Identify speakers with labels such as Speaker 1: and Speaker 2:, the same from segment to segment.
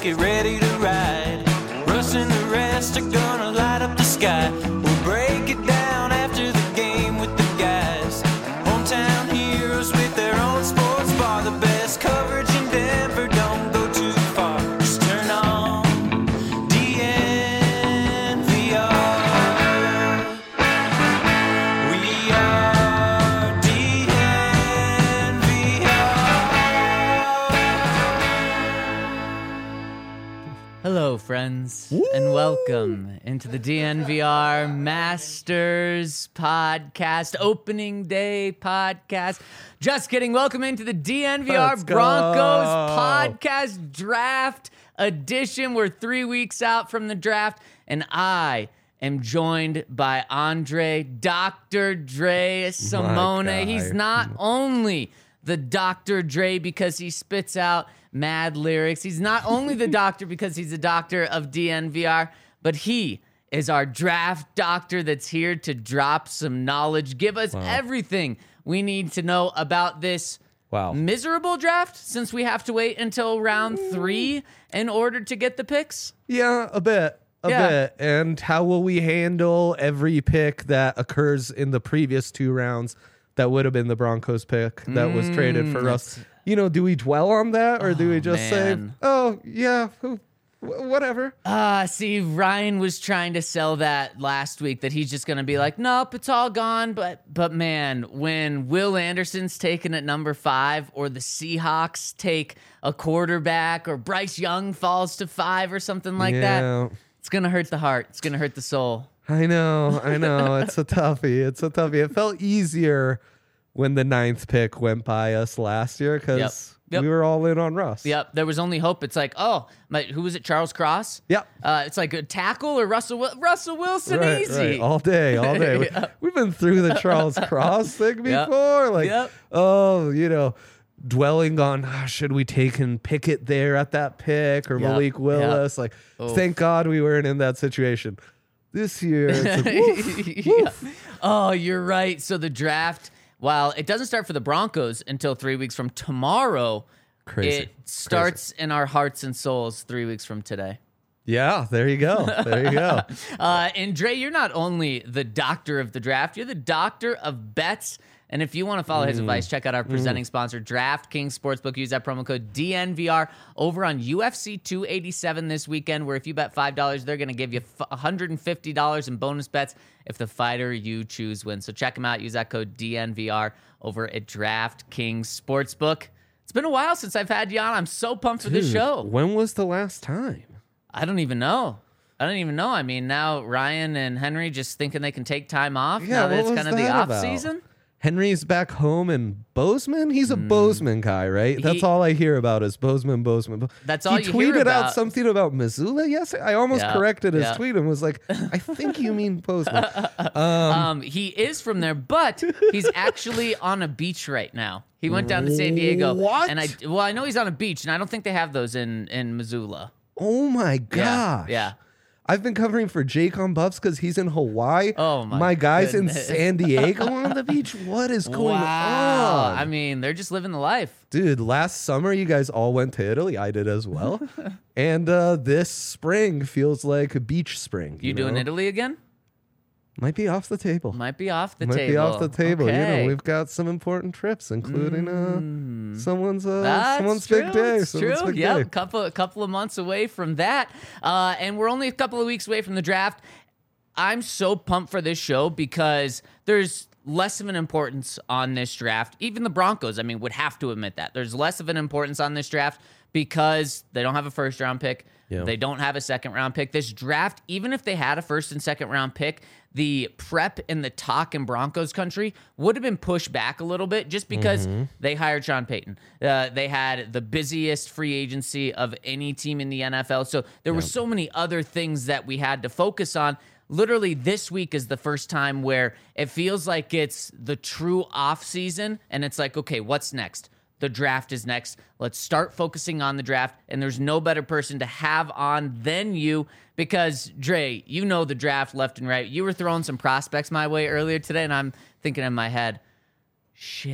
Speaker 1: get ready to ride. Russ and the rest are gonna light up the sky. We'll break it down after the game with the guys. Hometown heroes with their own sports bar. The best coverage in Denver, don't go too far. Just turn on DNVR. We are DNVR.
Speaker 2: Hello, friends, and welcome into the DNVR Masters podcast, opening day podcast. Just kidding. Welcome into the DNVR
Speaker 3: Let's go.
Speaker 2: Broncos podcast draft edition. We're 3 weeks out from the draft, and I am joined by Andre Dr. Dre Simone.
Speaker 3: guy.
Speaker 2: He's not only the Dr. Dre because he spits out mad lyrics. He's not only the doctor because he's a doctor of DNVR, but he is our draft doctor that's here to drop some knowledge, give us everything we need to know about this miserable draft, since we have to wait until round 3 in order to get the picks.
Speaker 3: Yeah, a bit. And how will we handle every pick that occurs in the previous 2 rounds that would have been the Broncos pick that was traded for Russ? You know, do we dwell on that or do we just
Speaker 2: man.
Speaker 3: say, oh, yeah, whatever?
Speaker 2: See, Ryan was trying to sell that last week, that he's just going to be like, nope, it's all gone. But man, when Will Anderson's taken at number 5, or the Seahawks take a quarterback, or Bryce Young falls to 5 or something like that, it's going to hurt the heart. It's going to hurt the soul.
Speaker 3: I know. It's a toughie. It felt easier when the 9th pick went by us last year because
Speaker 2: Yep.
Speaker 3: we were all in on Russ.
Speaker 2: Yep, there was only hope. It's like, who was it, Charles Cross?
Speaker 3: Yep.
Speaker 2: It's like a tackle or Russell Wilson,
Speaker 3: Right,
Speaker 2: easy.
Speaker 3: right. All day.
Speaker 2: Yep.
Speaker 3: We've been through the Charles Cross thing before.
Speaker 2: Yep.
Speaker 3: Dwelling on, should we take and Pickett there at that pick or
Speaker 2: Yep.
Speaker 3: Malik Willis?
Speaker 2: Oof.
Speaker 3: Thank God we weren't in that situation. This year, it's like, woof.
Speaker 2: Oh, you're right. So the draft, while it doesn't start for the Broncos until 3 weeks from tomorrow,
Speaker 3: Crazy.
Speaker 2: it starts in our hearts and souls 3 weeks from today.
Speaker 3: Yeah, there you go.
Speaker 2: And Dre, you're not only the doctor of the draft, you're the doctor of bets. And if you want to follow his advice, check out our presenting sponsor, DraftKings Sportsbook. Use that promo code DNVR over on UFC 287 this weekend, where if you bet $5, they're going to give you $150 in bonus bets if the fighter you choose wins. So check them out. Use that code DNVR over at DraftKings Sportsbook. It's been a while since I've had you on. I'm so pumped for this show.
Speaker 3: When was the last time?
Speaker 2: I don't even know. I mean, now Ryan and Henry just thinking they can take time off now that it's kind of the off season.
Speaker 3: Henry's back home in Bozeman. He's a Bozeman guy, right? That's all I hear about is Bozeman.
Speaker 2: That's all you hear
Speaker 3: He tweeted
Speaker 2: about.
Speaker 3: out something about Missoula yesterday. I almost corrected his tweet and was like, I think you mean Bozeman.
Speaker 2: He is from there, but he's actually on a beach right now. He went down to San Diego.
Speaker 3: What?
Speaker 2: And I know he's on a beach, and I don't think they have those in Missoula.
Speaker 3: Oh my gosh.
Speaker 2: Yeah.
Speaker 3: I've been covering for Jake on Buffs because he's in Hawaii.
Speaker 2: Oh my
Speaker 3: guy's
Speaker 2: goodness.
Speaker 3: in San Diego on the beach. What is going on?
Speaker 2: I mean, they're just living the life.
Speaker 3: Dude, last summer you guys all went to Italy. I did as well. And this spring feels like a beach spring.
Speaker 2: You doing
Speaker 3: know?
Speaker 2: Italy again?
Speaker 3: Might be off the table.
Speaker 2: Might be off the
Speaker 3: Might
Speaker 2: table.
Speaker 3: be off the table.
Speaker 2: Okay.
Speaker 3: You know, we've got some important trips, including someone's
Speaker 2: That's
Speaker 3: big
Speaker 2: true.
Speaker 3: day.
Speaker 2: It's
Speaker 3: Someone's
Speaker 2: true.
Speaker 3: big
Speaker 2: Yeah,
Speaker 3: day.
Speaker 2: a couple of months away from that, and we're only a couple of weeks away from the draft. I'm so pumped for this show because there's less of an importance on this draft. Even the Broncos, I mean, would have to admit that there's less of an importance on this draft because they don't have a first round pick.
Speaker 3: Yeah.
Speaker 2: They don't have a second round pick. This draft, even if they had a first and second round pick, the prep and the talk in Broncos country would have been pushed back a little bit just because they hired Sean Payton. They had the busiest free agency of any team in the NFL. So there were so many other things that we had to focus on. Literally this week is the first time where it feels like it's the true off season and it's like, okay, what's next? The draft is next. Let's start focusing on the draft. And there's no better person to have on than you because, Dre, you know the draft left and right. You were throwing some prospects my way earlier today, and I'm thinking in my head, shit,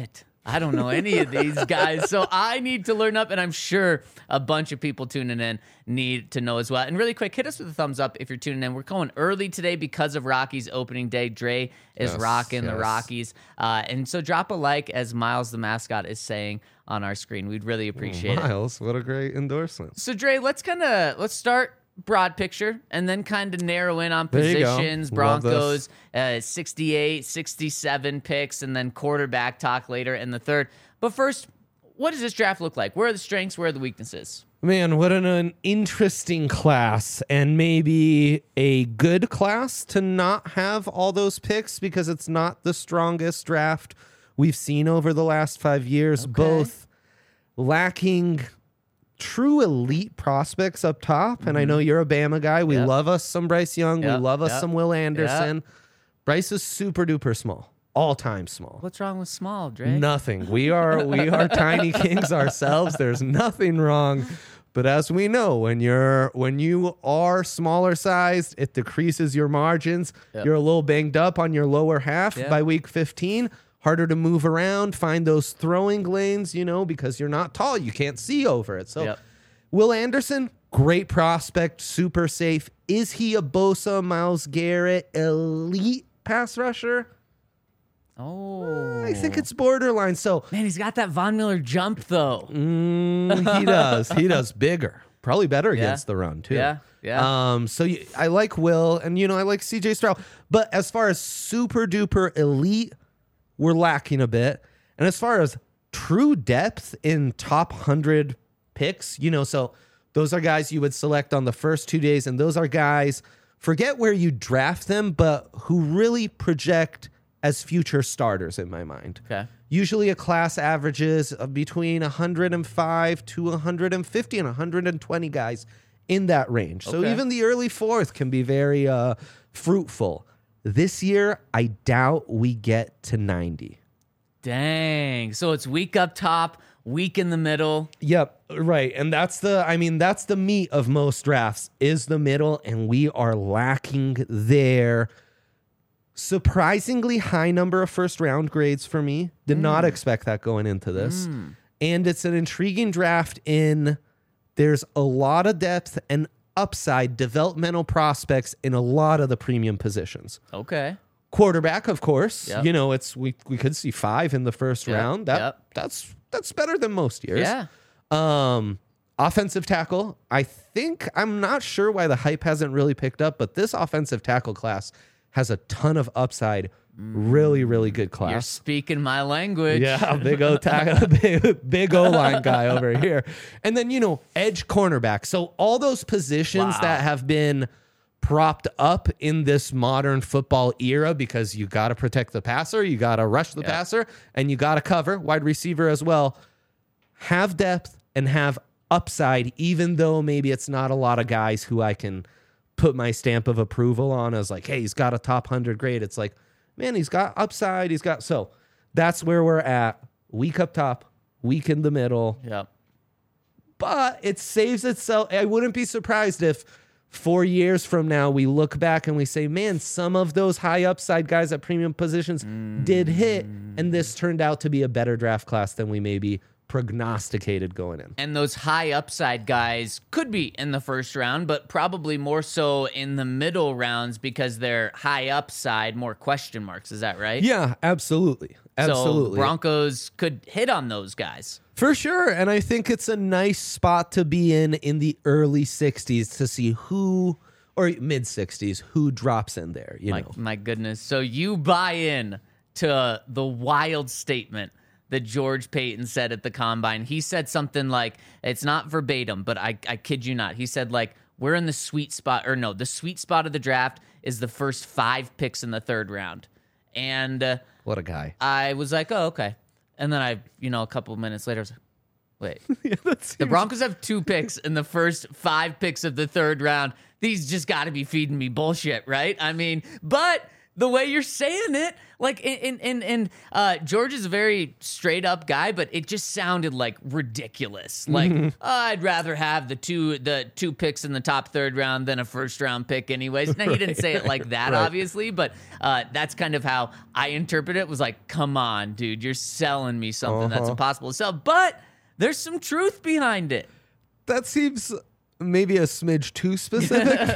Speaker 2: I don't know any of these guys, so I need to learn up, and I'm sure a bunch of people tuning in need to know as well. And really quick, hit us with a thumbs up if you're tuning in. We're going early today because of Rockies opening day. Dre is rocking the Rockies. And so drop a like, as Miles the mascot is saying on our screen. We'd really appreciate it.
Speaker 3: Miles, what a great endorsement.
Speaker 2: So Dre, let's start broad picture and then kind of narrow in on positions. Broncos, 68, 67 picks, and then quarterback talk later in the third. But first, what does this draft look like? Where are the strengths? Where are the weaknesses?
Speaker 3: Man, what an interesting class, and maybe a good class to not have all those picks because it's not the strongest draft we've seen over the last 5 years, both lacking true elite prospects up top. And I know you're a Bama guy. We love us some Bryce Young. We love us some Will Anderson. Bryce is super duper small, all time small.
Speaker 2: What's wrong with small, Dre?
Speaker 3: Nothing. We are tiny kings ourselves. There's nothing wrong. But as we know, when you are smaller sized, it decreases your margins. You're a little banged up on your lower half by week 15. Harder to move around, find those throwing lanes, because you're not tall. You can't see over it. So Will Anderson, great prospect, super safe. Is he a Bosa, Myles Garrett, elite pass rusher?
Speaker 2: Oh.
Speaker 3: I think it's borderline. So
Speaker 2: man, he's got that Von Miller jump, though.
Speaker 3: He does. He does bigger. Probably better against the run, too.
Speaker 2: Yeah.
Speaker 3: So I like Will, and, I like CJ Stroud. But as far as super duper elite, we're lacking a bit. And as far as true depth in top 100 picks, so those are guys you would select on the first 2 days. And those are guys, forget where you draft them, but who really project as future starters in my mind.
Speaker 2: Okay.
Speaker 3: Usually a class averages between 105 to 150 and 120 guys in that range. So even the early fourth can be very fruitful. This year, I doubt we get to 90.
Speaker 2: Dang. So it's weak up top, weak in the middle.
Speaker 3: Yep, right. And that's the meat of most drafts is the middle, and we are lacking there. Surprisingly high number of first round grades for me. Did not expect that going into this. And it's an intriguing draft there's a lot of depth and upside developmental prospects in a lot of the premium positions.
Speaker 2: Okay.
Speaker 3: Quarterback, of course.
Speaker 2: Yep.
Speaker 3: We could see 5 in the first round. That's better than most years.
Speaker 2: Yeah.
Speaker 3: Offensive tackle. I'm not sure why the hype hasn't really picked up, but this offensive tackle class has a ton of upside. Really, really good class.
Speaker 2: You're speaking my language.
Speaker 3: Yeah, big O-line guy over here. And then, edge cornerback. So all those positions that have been propped up in this modern football era because you got to protect the passer, you got to rush the passer, and you got to cover wide receiver as well, have depth and have upside, even though maybe it's not a lot of guys who I can put my stamp of approval on as like, hey, he's got a top 100 grade. It's like, man, he's got upside. So that's where we're at. Weak up top, weak in the middle.
Speaker 2: Yep.
Speaker 3: But it saves itself. I wouldn't be surprised if 4 years from now we look back and we say, man, some of those high upside guys at premium positions did hit, and this turned out to be a better draft class than we maybe prognosticated going in.
Speaker 2: And those high upside guys could be in the first round, but probably more so in the middle rounds because they're high upside, more question marks. Is that right?
Speaker 3: Yeah, absolutely.
Speaker 2: So Broncos could hit on those guys.
Speaker 3: For sure. And I think it's a nice spot to be in the early 60s to see who, or mid 60s, who drops in there.
Speaker 2: My goodness. So you buy in to the wild statement that George Payton said at the Combine. He said something like, it's not verbatim, but I kid you not. He said, like, we're in the sweet spot, the sweet spot of the draft is the first 5 picks in the third round. And
Speaker 3: what a guy.
Speaker 2: I was like, oh, okay. And then a couple of minutes later, I was like, wait,
Speaker 3: yeah,
Speaker 2: the Broncos have 2 picks in the first 5 picks of the third round. These just got to be feeding me bullshit, right? I mean, but the way you're saying it, like, George is a very straight up guy, but it just sounded like ridiculous. Like, I'd rather have the two picks in the top third round than a first round pick anyways. Now, he didn't say it like that, obviously, but that's kind of how I interpret it. Was like, come on, dude, you're selling me something that's impossible to sell. But there's some truth behind it.
Speaker 3: That seems maybe a smidge too specific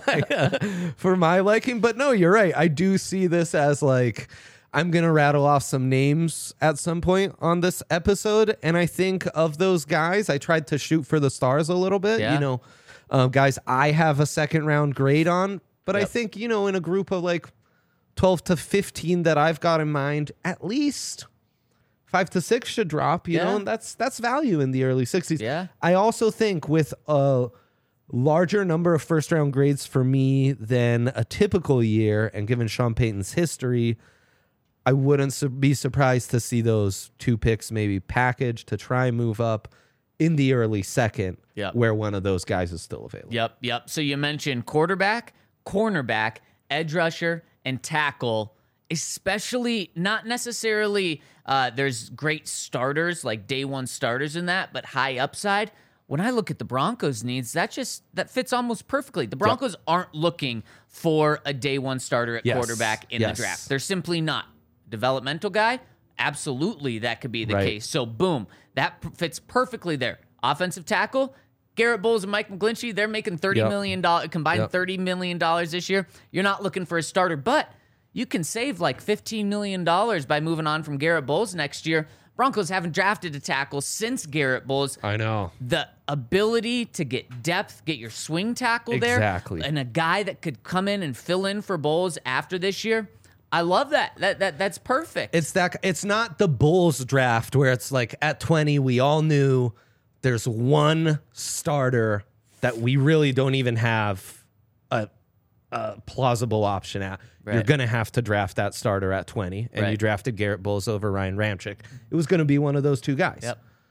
Speaker 3: for my liking, but no, you're right. I do see this as like, I'm gonna rattle off some names at some point on this episode, and I think of those guys, I tried to shoot for the stars a little bit.
Speaker 2: Yeah.
Speaker 3: You know, guys I have a second round grade on, but I think, you know, in a group of like 12 to 15 that I've got in mind, at least 5 to 6 should drop, you know, and that's value in the early 60s.
Speaker 2: Yeah.
Speaker 3: I also think with a larger number of first round grades for me than a typical year, and given Sean Payton's history, I wouldn't be surprised to see those 2 picks maybe packaged to try and move up in the early second, where one of those guys is still available.
Speaker 2: Yep. So you mentioned quarterback, cornerback, edge rusher, and tackle. Especially, not necessarily there's great starters, like day one starters in that, but high upside. When I look at the Broncos' needs, that fits almost perfectly. The Broncos aren't looking for a day one starter at quarterback in the draft. They're simply not. Developmental guy, absolutely that could be the case. So boom, that fits perfectly there. Offensive tackle, Garrett Bowles and Mike McGlinchey, they're making $30 million, combined $30 million this year. You're not looking for a starter, but you can save like $15 million by moving on from Garrett Bowles next year. Broncos haven't drafted a tackle since Garrett Bowles.
Speaker 3: I know.
Speaker 2: The ability to get depth, get your swing tackle there, and a guy that could come in and fill in for Bowles after this year. I love that. That's perfect.
Speaker 3: It's not the Bulls draft where it's like at 20 we all knew there's one starter that we really don't even have a plausible option at. You're going to have to draft that starter at 20, and you drafted Garrett Bowles over Ryan Ramczyk. It was going to be one of those two guys.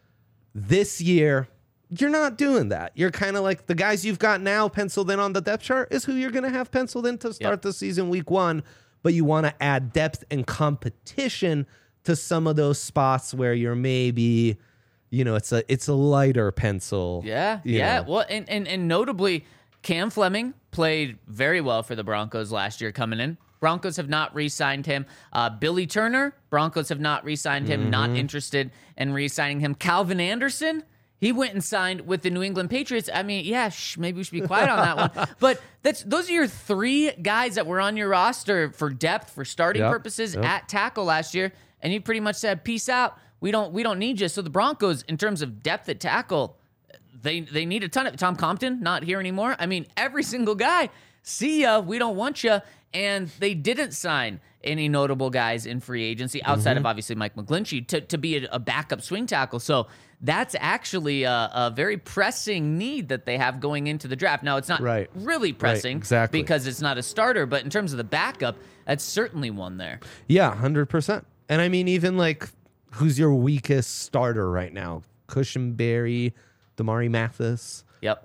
Speaker 3: This year, you're not doing that. You're kind of like the guys you've got now penciled in on the depth chart is who you're going to have penciled in to start the season week 1, but you want to add depth and competition to some of those spots where you're maybe, you know, it's a lighter pencil.
Speaker 2: Yeah. Well, and notably, Cam Fleming played very well for the Broncos last year coming in. Broncos have not re-signed him. Billy Turner, Broncos have not re-signed him, not interested in re-signing him. Calvin Anderson, he went and signed with the New England Patriots. I mean, maybe we should be quiet on that one. But those are your 3 guys that were on your roster for depth, for starting purposes at tackle last year, and you pretty much said, peace out. We don't need you. So the Broncos, in terms of depth at tackle, they need a ton of Tom Compton, not here anymore. I mean, every single guy, see ya, we don't want you. And they didn't sign any notable guys in free agency outside of obviously Mike McGlinchey to be a backup swing tackle. So that's actually a very pressing need that they have going into the draft. Now, it's not really pressing because it's not a starter, but in terms of the backup, that's certainly one there.
Speaker 3: Yeah, 100%. And I mean, even like, who's your weakest starter right now? Cushenberry, Damari Mathis.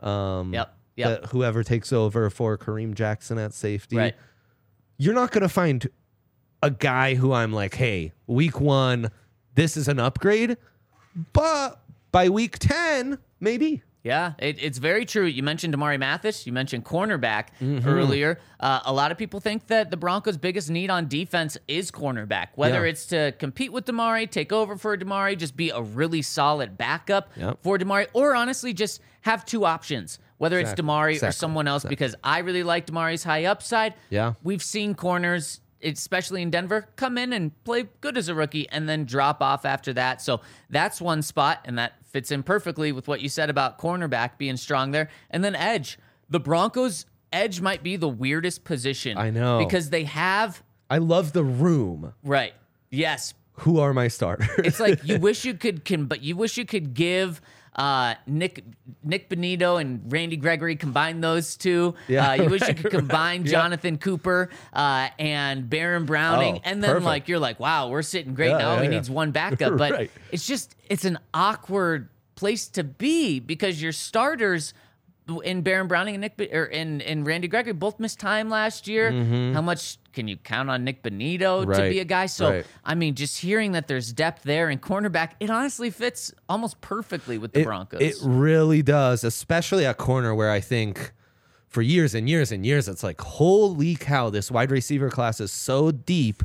Speaker 3: Whoever takes over for Kareem Jackson at safety. You're not going to find a guy who I'm like, hey, week 1, this is an upgrade. But by week 10, maybe.
Speaker 2: Yeah, it's very true. You mentioned Damari Mathis. You mentioned cornerback earlier. A lot of people think that the Broncos' biggest need on defense is cornerback, whether it's to compete with Damari, take over for Damari, just be a really solid backup for Damari, or honestly just have 2 options, whether it's Damari or someone else, because I really like Damari's high upside. We've seen corners, especially in Denver, come in and play good as a rookie and then drop off after that. So that's one spot, and that fits in perfectly with what you said about cornerback being strong there. And then edge. The Broncos' edge might be the weirdest position.
Speaker 3: I know.
Speaker 2: Because they have...
Speaker 3: I love the room.
Speaker 2: Right. Yes.
Speaker 3: Who are my starters?
Speaker 2: It's like you wish you could give... Nick Benito and Randy Gregory, combine those 2. You wish you could combine Jonathan Cooper and Baron Browning, and then perfect. You're like, wow, we're sitting great now. He needs one backup, but it's an awkward place to be because your starters in Baron Browning and and Randy Gregory both missed time last year. How much can you count on Nick Bonito to be a guy? So, I mean, just hearing that there's depth there in cornerback, it honestly fits almost perfectly with the Broncos.
Speaker 3: It really does, especially at corner where I think for years and years and years, it's like, holy cow, this wide receiver class is so deep.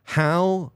Speaker 3: How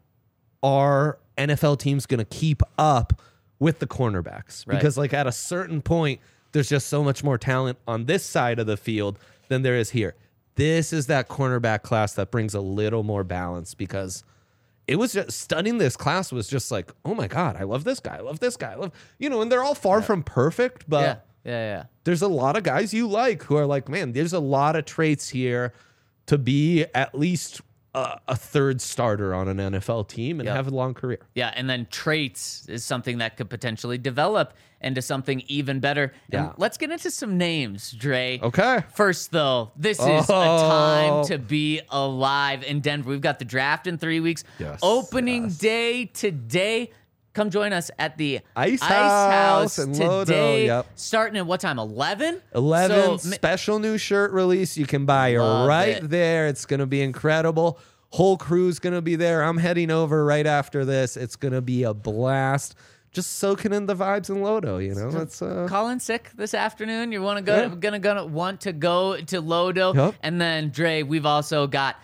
Speaker 3: are NFL teams going to keep up with the cornerbacks? Because like at a certain point, there's just so much more talent on this side of the field than there is here. This is that cornerback class that brings a little more balance, because it was just studying this class was just like, oh my God, I love this guy. I love this guy. I love, and they're all far from perfect, but there's a lot of guys you like who are like, man, there's a lot of traits here to be at least a third starter on an NFL team and have a long career.
Speaker 2: Yeah, and then traits is something that could potentially develop into something even better. And let's get into some names, Dre.
Speaker 3: Okay.
Speaker 2: First, though, this is a time to be alive in Denver. We've got the draft in 3 weeks. Opening day today. Come join us at the Ice House
Speaker 3: in
Speaker 2: today.
Speaker 3: Lodo.
Speaker 2: Starting at what time? 11?
Speaker 3: 11. Special new shirt release you can buy there. It's going to be incredible. Whole crew's going to be there. I'm heading over right after this. It's going to be a blast. Just soaking in the vibes in Lodo, It's
Speaker 2: calling sick this afternoon. You want to go? Gonna want to go to Lodo, and then Dre. We've also got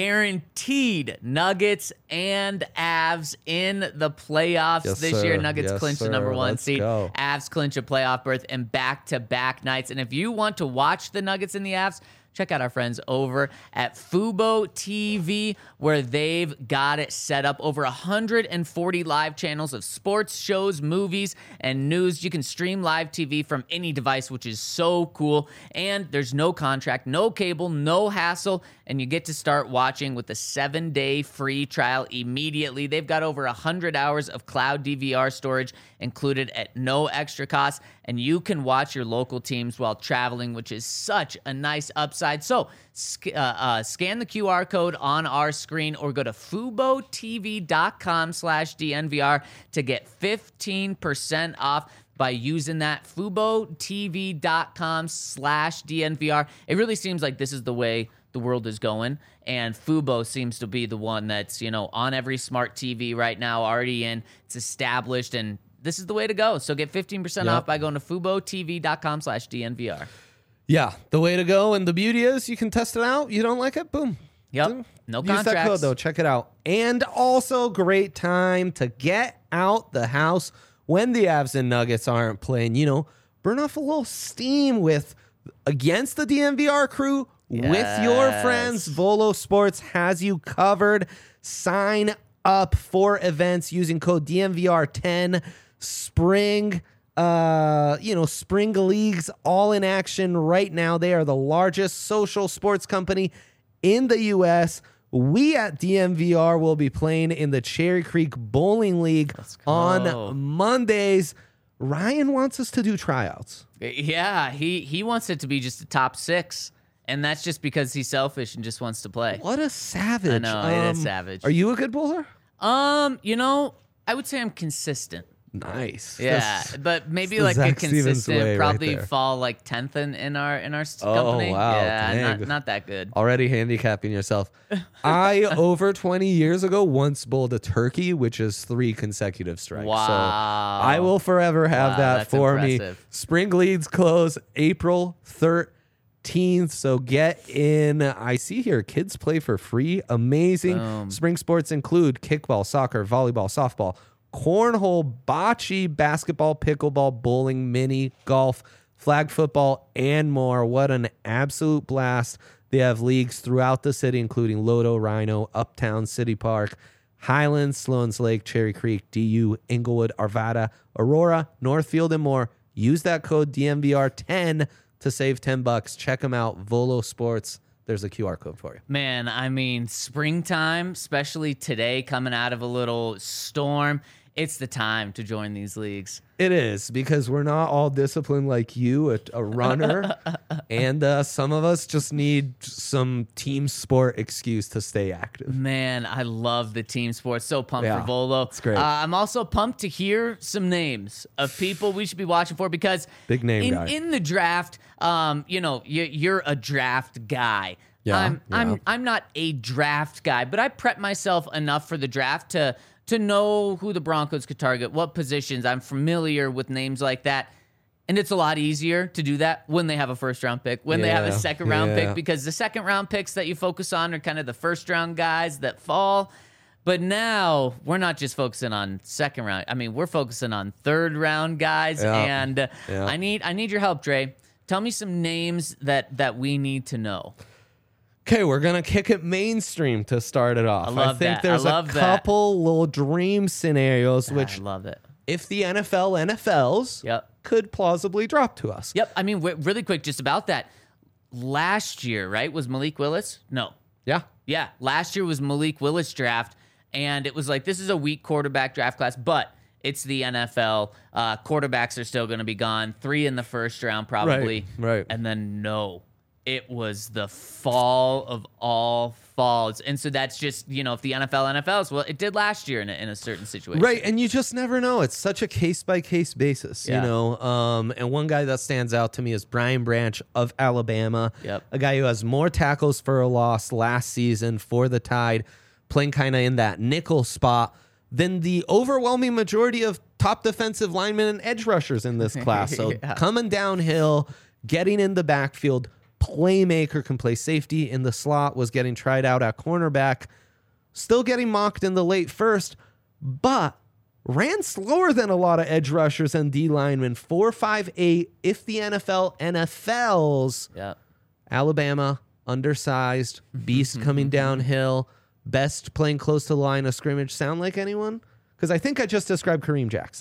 Speaker 2: guaranteed Nuggets and Avs in the playoffs this year. Nuggets clinch the number 1 seed. Avs clinch a playoff berth in back-to-back nights. And if you want to watch the Nuggets and the Avs, check out our friends over at Fubo TV, where they've got it set up. Over 140 live channels of sports, shows, movies, and news. You can stream live TV from any device, which is so cool. And there's no contract, no cable, no hassle, and you get to start watching with a 7-day free trial immediately. They've got over 100 hours of cloud DVR storage included at no extra cost, and you can watch your local teams while traveling, which is such a nice upside. So scan the QR code on our screen or go to FuboTV.com/DNVR to get 15% off by using that FuboTV.com/DNVR. It really seems like this is the way the world is going, and Fubo seems to be the one that's, on every smart TV right now, already in. It's established, and this is the way to go. So get 15% off by going to FuboTV.com/DNVR.
Speaker 3: Yeah, the way to go. And the beauty is you can test it out. You don't like it? Boom.
Speaker 2: Yep. No
Speaker 3: Use
Speaker 2: contracts.
Speaker 3: that code, though. Check it out. And also great time to get out the house when the Avs and Nuggets aren't playing. Burn off a little steam against the DNVR crew with your friends. Volo Sports has you covered. Sign up for events using code DNVR10. Spring spring leagues all in action right now. They are the largest social sports company in the U.S. We at DNVR will be playing in the Cherry Creek Bowling League on Mondays. Ryan wants us to do tryouts.
Speaker 2: Yeah, he wants it to be just a top 6. And that's just because he's selfish and just wants to play.
Speaker 3: What a savage.
Speaker 2: I know, it is savage.
Speaker 3: Are you a good bowler?
Speaker 2: I would say I'm consistent.
Speaker 3: Nice.
Speaker 2: Yeah, but maybe like a consistent, probably fall like 10th in our company.
Speaker 3: Oh, wow.
Speaker 2: Yeah, not that good.
Speaker 3: Already handicapping yourself. I, over 20 years ago, once bowled a turkey, which is 3 consecutive strikes.
Speaker 2: Wow.
Speaker 3: So I will forever have that for
Speaker 2: impressive.
Speaker 3: me. Spring leagues close April 13th. So get in. I see here kids play for free. Amazing.
Speaker 2: Boom.
Speaker 3: Spring sports include kickball, soccer, volleyball, softball, cornhole, bocce, basketball, pickleball, bowling, mini, golf, flag football, and more. What an absolute blast. They have leagues throughout the city, including Lodo, Rhino, Uptown, City Park, Highlands, Sloan's Lake, Cherry Creek, DU, Inglewood, Arvada, Aurora, Northfield, and more. Use that code DNVR10 to save $10. Check them out. Volo Sports. There's a QR code for you.
Speaker 2: Man, I mean, springtime, especially today, coming out of a little storm, it's the time to join these leagues.
Speaker 3: It is, because we're not all disciplined like you, a runner, and some of us just need some team sport excuse to stay active.
Speaker 2: Man, I love the team sport. So pumped for Volo.
Speaker 3: It's great.
Speaker 2: I'm also pumped to hear some names of people we should be watching for, because
Speaker 3: big name guy.
Speaker 2: In the draft, you're a draft guy.
Speaker 3: Yeah,
Speaker 2: I'm not a draft guy, but I prep myself enough for the draft to know who the Broncos could target, what positions. I'm familiar with names like that. And it's a lot easier to do that when they have a first-round pick, when they have a second-round pick, because the second-round picks that you focus on are kind of the first-round guys that fall. But now we're not just focusing on second round. I mean, we're focusing on third-round guys. And I need your help, Dre. Tell me some names that we need to know.
Speaker 3: Okay, we're going to kick it mainstream to start it off. I think there's a couple little dream scenarios, which
Speaker 2: I love it.
Speaker 3: If the NFLs could plausibly drop to us.
Speaker 2: Yep. I mean, really quick, just about that. Last year, right, was Malik Willis? No.
Speaker 3: Yeah.
Speaker 2: Yeah. Last year was Malik Willis draft, and it was like, this is a weak quarterback draft class, but it's the NFL. Quarterbacks are still going to be gone. 3 in the first round, probably.
Speaker 3: Right.
Speaker 2: And then it was the fall of all falls. And so that's just, if the NFLs, well, it did last year in a certain situation.
Speaker 3: Right, and you just never know. It's such a case-by-case basis, And one guy that stands out to me is Brian Branch of Alabama, a guy who has more tackles for a loss last season for the Tide, playing kind of in that nickel spot, than the overwhelming majority of top defensive linemen and edge rushers in this class. So coming downhill, getting in the backfield, playmaker, can play safety in the slot, was getting tried out at cornerback, still getting mocked in the late first, but ran slower than a lot of edge rushers and D linemen. 4.58 if the NFLs. Alabama, undersized, beast coming downhill, best playing close to the line of scrimmage. Sound like anyone? Because I think I just described Kareem Jackson.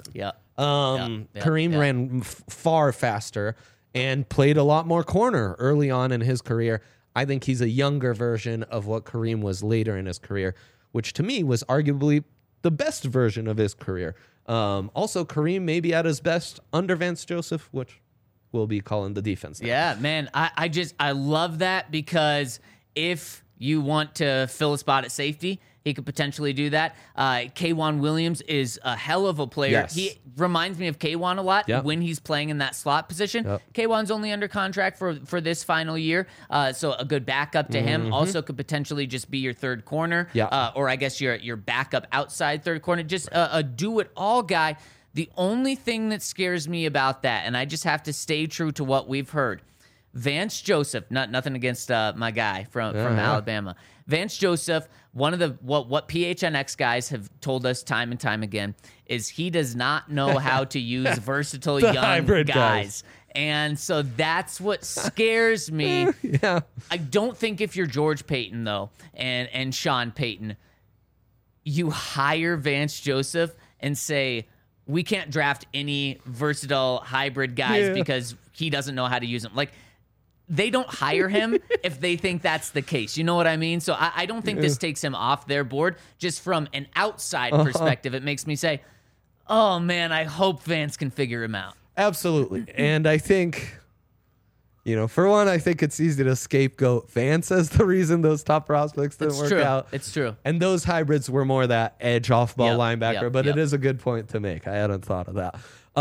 Speaker 3: Kareem ran far faster and played a lot more corner early on in his career. I think he's a younger version of what Kareem was later in his career, which to me was arguably the best version of his career. Also, Kareem may be at his best under Vance Joseph, which we'll be calling the defense now.
Speaker 2: Yeah, man. I love that, because if you want to fill a spot at safety, he could potentially do that. K'Wan Williams is a hell of a player.
Speaker 3: Yes.
Speaker 2: He reminds me of K'Wan a lot when he's playing in that slot position. K'Wan's only under contract for this final year, so a good backup to him. Also could potentially just be your third corner, or I guess your backup outside third corner. Just a do-it-all guy. The only thing that scares me about that, and I just have to stay true to what we've heard, Vance Joseph, nothing against my guy from Alabama. Vance Joseph, one of the what PHNX guys have told us time and time again is he does not know how to use versatile young guys. And so that's what scares me. I don't think if you're George Payton, though, and Sean Payton, you hire Vance Joseph and say, we can't draft any versatile hybrid guys because he doesn't know how to use them. Like, they don't hire him if they think that's the case. You know what I mean? So I don't think this takes him off their board. Just from an outside perspective, it makes me say, oh, man, I hope Vance can figure him out.
Speaker 3: Absolutely. And I think, for one, I think it's easy to scapegoat Vance as the reason those top prospects didn't work out.
Speaker 2: It's true.
Speaker 3: And those hybrids were more that edge off-ball linebacker, but it is a good point to make. I hadn't thought of that.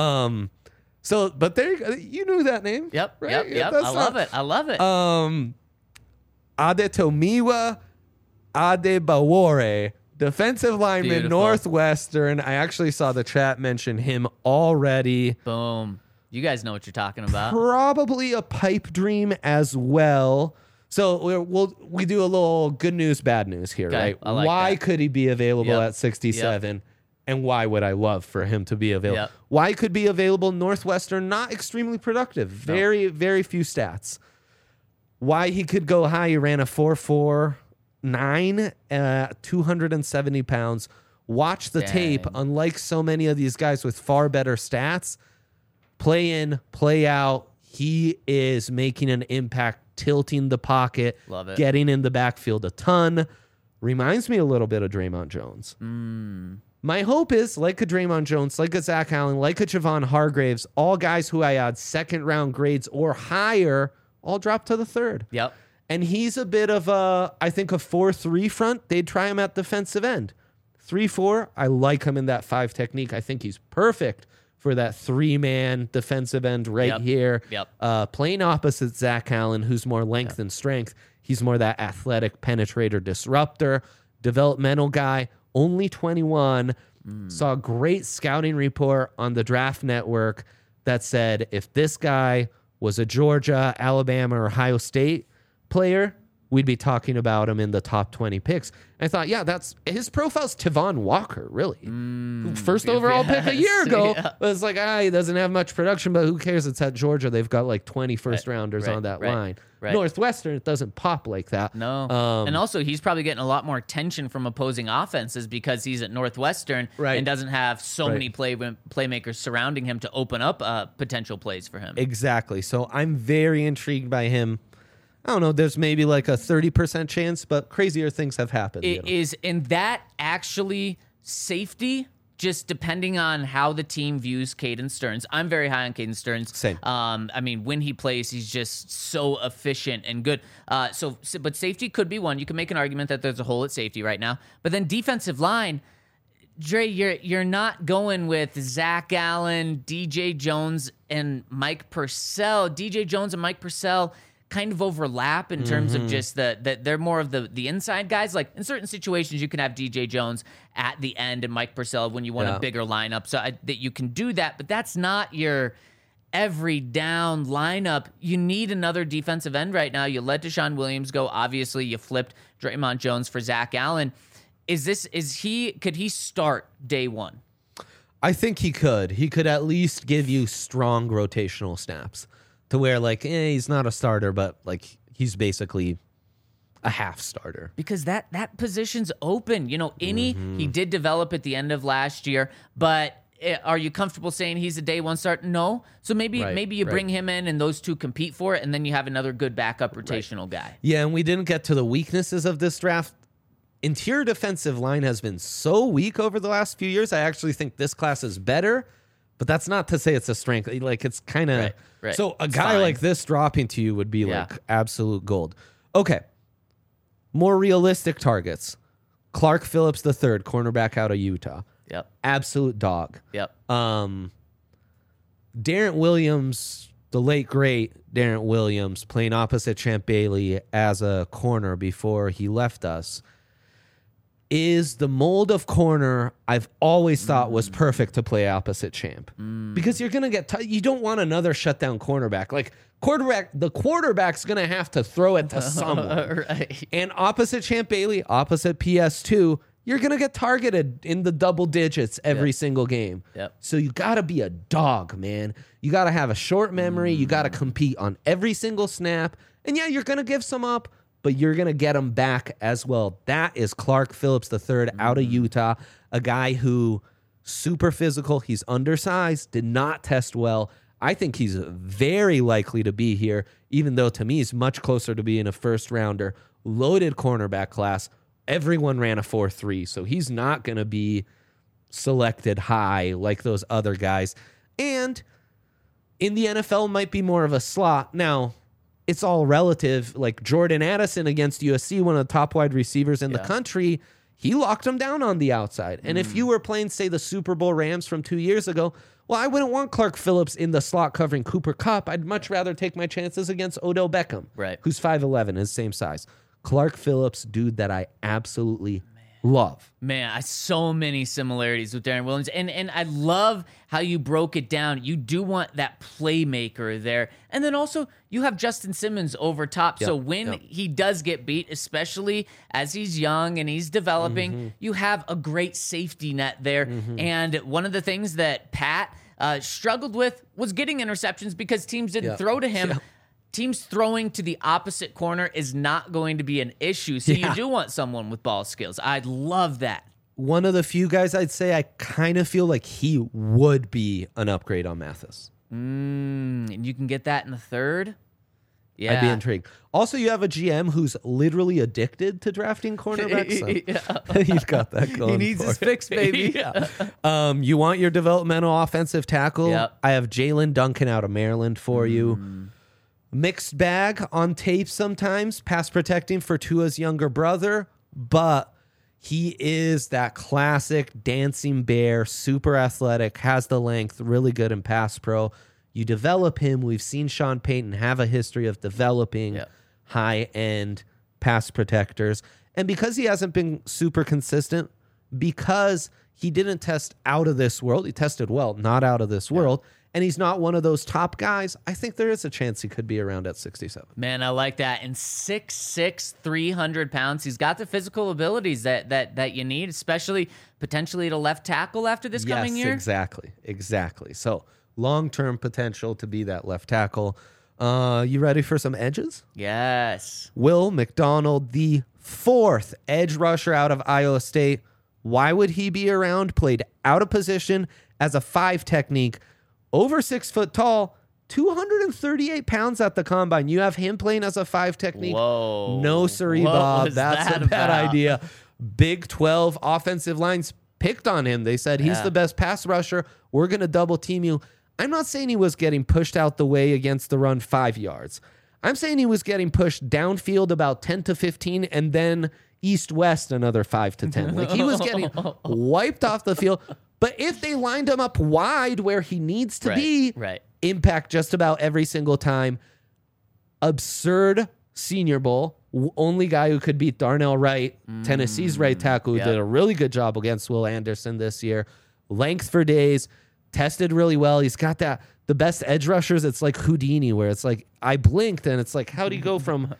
Speaker 3: But there, you knew that name.
Speaker 2: Yep.
Speaker 3: Right?
Speaker 2: Yep. I love it.
Speaker 3: Adetomiwa Adebawore, defensive lineman,
Speaker 2: Beautiful.
Speaker 3: Northwestern. I actually saw the chat mention him already.
Speaker 2: Boom. You guys know what you're talking about.
Speaker 3: Probably a pipe dream as well. So we do a little good news, bad news here, right?
Speaker 2: I like
Speaker 3: why
Speaker 2: that.
Speaker 3: could he be available at 67? And why would I love for him to be available? Why could be available? Northwestern, not extremely productive. Very, very few stats. Why he could go high, he ran a 4.49, 270 pounds. Watch the tape. Unlike so many of these guys with far better stats, play in, play out, he is making an impact, tilting the pocket,
Speaker 2: Love it.
Speaker 3: getting in the backfield a ton. Reminds me a little bit of Draymond Jones. My hope is, like a Draymond Jones, like a Zach Allen, like a Javon Hargraves, all guys who I had second-round grades or higher, all drop to the third.
Speaker 2: Yep.
Speaker 3: And he's a bit of I think a 4-3 front. They'd try him at defensive end. 3-4, I like him in that 5 technique. I think he's perfect for that 3-man defensive end right here. Playing opposite Zach Allen, who's more length and strength. He's more that athletic penetrator disruptor, developmental guy, only 21. Saw a great scouting report on the Draft Network that said if this guy was a Georgia, Alabama, or Ohio State player, we'd be talking about him in the top 20 picks. I thought, yeah, that's his profile's Tavon Walker, really. First overall pick a year ago. Was like, he doesn't have much production, but who cares? It's at Georgia. They've got like 20 first rounders on that line. Northwestern, it doesn't pop like that.
Speaker 2: No. And also, he's probably getting a lot more attention from opposing offenses because he's at Northwestern and doesn't have so many playmakers surrounding him to open up potential plays for him.
Speaker 3: Exactly. So I'm very intrigued by him. I don't know, there's maybe like a 30% chance, but crazier things have happened.
Speaker 2: Is in that actually safety, just depending on how the team views Caden Stearns. I'm very high on Caden Stearns.
Speaker 3: Same.
Speaker 2: I mean, when he plays, he's just so efficient and good. But safety could be one. You can make an argument that there's a hole at safety right now. But then defensive line, Dre, you're not going with Zach Allen, DJ Jones, and Mike Purcell. DJ Jones and Mike Purcell kind of overlap in terms of just that they're more of the inside guys. Like in certain situations, you can have DJ Jones at the end and Mike Purcell when you want a bigger lineup, so that you can do that. But that's not your every down lineup. You need another defensive end right now. You let Deshaun Williams go. Obviously, you flipped Draymond Jones for Zach Allen. Could he start day one?
Speaker 3: I think he could. He could at least give you strong rotational snaps. To where, like, he's not a starter, but, like, he's basically a half starter.
Speaker 2: Because that position's open. You know, he did develop at the end of last year, but are you comfortable saying he's a day one start? No. So maybe you bring him in and those two compete for it, and then you have another good backup rotational guy.
Speaker 3: Yeah, and we didn't get to the weaknesses of this draft. Interior defensive line has been so weak over the last few years. I actually think this class is better. But that's not to say it's a strength. Like, it's kind of...
Speaker 2: Right.
Speaker 3: So a guy like this dropping to you would be, like, absolute gold. Okay. More realistic targets. Clark Phillips III, cornerback out of Utah.
Speaker 2: Yep.
Speaker 3: Absolute dog.
Speaker 2: Yep.
Speaker 3: Darren Williams, the late, great Darren Williams, playing opposite Champ Bailey as a corner before he left us, is the mold of corner I've always thought was perfect to play opposite Champ. Because you're going to get... you don't want another shutdown cornerback. Like, the quarterback's going to have to throw it to someone. And opposite Champ Bailey, opposite PS2, you're going to get targeted in the double digits every single game. So you got to be a dog, man. You got to have a short memory. You got to compete on every single snap. And yeah, you're going to give some up, but you're going to get them back as well. That is Clark Phillips III out of Utah, a guy who super physical. He's undersized, did not test well. I think he's very likely to be here, even though to me he's much closer to being a first rounder. Loaded cornerback class. Everyone ran a 4.3, so he's not going to be selected high like those other guys. And in the NFL might be more of a slot. Now, it's all relative. Like Jordan Addison against USC, one of the top wide receivers in the country, he locked him down on the outside. And if you were playing, say, the Super Bowl Rams from 2 years ago, well, I wouldn't want Clark Phillips in the slot covering Cooper Kupp. I'd much rather take my chances against Odell Beckham, who's 5'11", his same size. Clark Phillips, dude that I absolutely love.
Speaker 2: Man, so many similarities with Darren Williams. And I love how you broke it down. You do want that playmaker there. And then also, you have Justin Simmons over top. So when he does get beat, especially as he's young and he's developing, you have a great safety net there. And one of the things that Pat struggled with was getting interceptions because teams didn't throw to him. Teams throwing to the opposite corner is not going to be an issue. So you do want someone with ball skills. I love that.
Speaker 3: One of the few guys I'd say I kind of feel like he would be an upgrade on Mathis.
Speaker 2: And you can get that in the third? Yeah.
Speaker 3: I'd be intrigued. Also, you have a GM who's literally addicted to drafting cornerbacks. So he's got that going.
Speaker 2: He needs his fix, baby.
Speaker 3: You want your developmental offensive tackle? I have Jalen Duncan out of Maryland for you. Mixed bag on tape sometimes, pass protecting for Tua's younger brother, but He is that classic dancing bear, super athletic, has the length, really good in pass pro. You develop him. We've seen Sean Payton have a history of developing high-end pass protectors. And because he hasn't been super consistent, because he didn't test out of this world, he tested well, not out of this world, and he's not one of those top guys, I think there is a chance he could be around at 67.
Speaker 2: Man, I like that. And 6'6", 300 pounds. He's got the physical abilities that you need, especially potentially to left tackle after this coming year.
Speaker 3: Exactly. So long-term potential to be that left tackle. You ready for some edges?
Speaker 2: Yes.
Speaker 3: Will McDonald, the 4th edge rusher out of Iowa State. Why would he be around? Played out of position as a 5 technique. Over 6 foot tall, 238 pounds at the combine. You have him playing as a 5 technique.
Speaker 2: Whoa.
Speaker 3: No, siree,
Speaker 2: What
Speaker 3: Bob.
Speaker 2: was
Speaker 3: That's
Speaker 2: that
Speaker 3: a bad
Speaker 2: about?
Speaker 3: idea. Big 12 offensive lines picked on him. They said he's the best pass rusher. We're going to double team you. I'm not saying he was getting pushed out the way against the run 5 yards. I'm saying he was getting pushed downfield about 10 to 15 and then east-west another 5 to 10. Like he was getting wiped off the field. But if they lined him up wide where he needs to be, impact just about every single time. Absurd Senior Bowl. Only guy who could beat Darnell Wright, Tennessee's right tackle, who did a really good job against Will Anderson this year. Length for days. Tested really well. He's got the best edge rushers. It's like Houdini, where it's like, I blinked and it's like, how do you go from,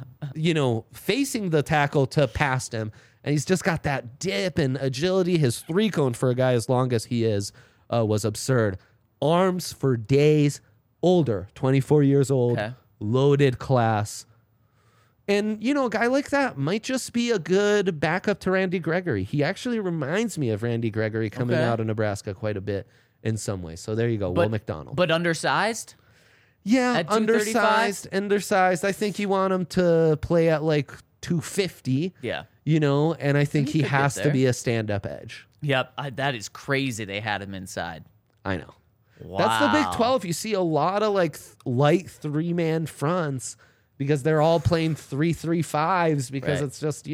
Speaker 3: facing the tackle to past him? And he's just got that dip and agility. His 3-cone for a guy as long as he is was absurd. Arms for days. Older, 24 years old.
Speaker 2: Okay.
Speaker 3: Loaded class. And, a guy like that might just be a good backup to Randy Gregory. He actually reminds me of Randy Gregory coming out of Nebraska quite a bit in some ways. So there you go, Will McDonald.
Speaker 2: But undersized?
Speaker 3: Yeah,
Speaker 2: At 235?
Speaker 3: undersized. I think you want him to play at like 250.
Speaker 2: Yeah.
Speaker 3: And I think he
Speaker 2: could get
Speaker 3: has to
Speaker 2: there.
Speaker 3: be a stand-up edge.
Speaker 2: Yep. That is crazy they had him inside.
Speaker 3: I know.
Speaker 2: Wow.
Speaker 3: That's the Big 12. You see a lot of like light 3-man fronts because they're all playing 3-3-5s because it's just,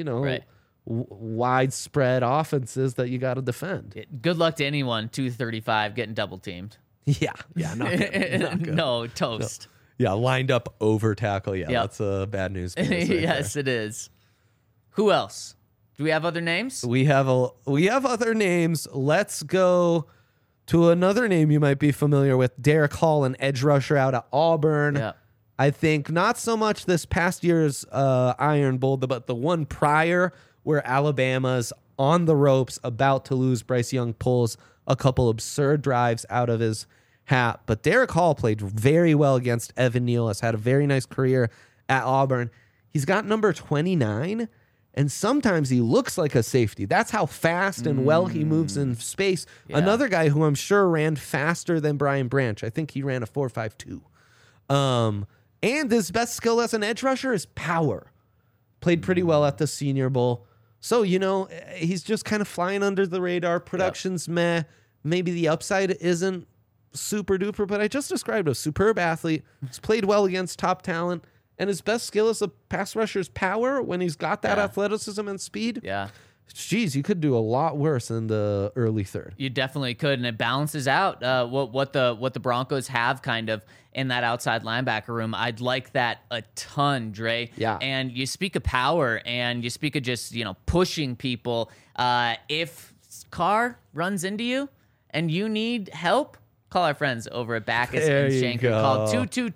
Speaker 3: widespread offenses that you got to defend.
Speaker 2: Good luck to anyone, 235, getting double teamed.
Speaker 3: Yeah, not good. Not good.
Speaker 2: No, toast.
Speaker 3: Yeah, lined up over tackle. Yeah, that's bad news.
Speaker 2: Yes, it is. Who else? Do we have other names?
Speaker 3: We have other names. Let's go to another name you might be familiar with. Derek Hall, an edge rusher out of Auburn.
Speaker 2: Yeah.
Speaker 3: I think not so much this past year's Iron Bowl, but the one prior where Alabama's on the ropes, about to lose. Bryce Young pulls a couple absurd drives out of his hat. But Derek Hall played very well against Evan Neal, has had a very nice career at Auburn. He's got number 29, and sometimes he looks like a safety. That's how fast and well he moves in space.
Speaker 2: Yeah.
Speaker 3: Another guy who I'm sure ran faster than Brian Branch. I think he ran a 4.52. And his best skill as an edge rusher is power. Played pretty well at the Senior Bowl. So, he's just kind of flying under the radar. Production's meh. Maybe the upside isn't super duper, but I just described a superb athlete. He's played well against top talent. And his best skill as a pass rusher's power when he's got that athleticism and speed.
Speaker 2: Yeah.
Speaker 3: Geez, you could do a lot worse in the early third.
Speaker 2: You definitely could, and it balances out what the Broncos have kind of in that outside linebacker room. I'd like that a ton, Dre.
Speaker 3: Yeah.
Speaker 2: And you speak of power, and you speak of just pushing people. If Carr runs into you and you need help, call our friends over at Backus and Shanker. Call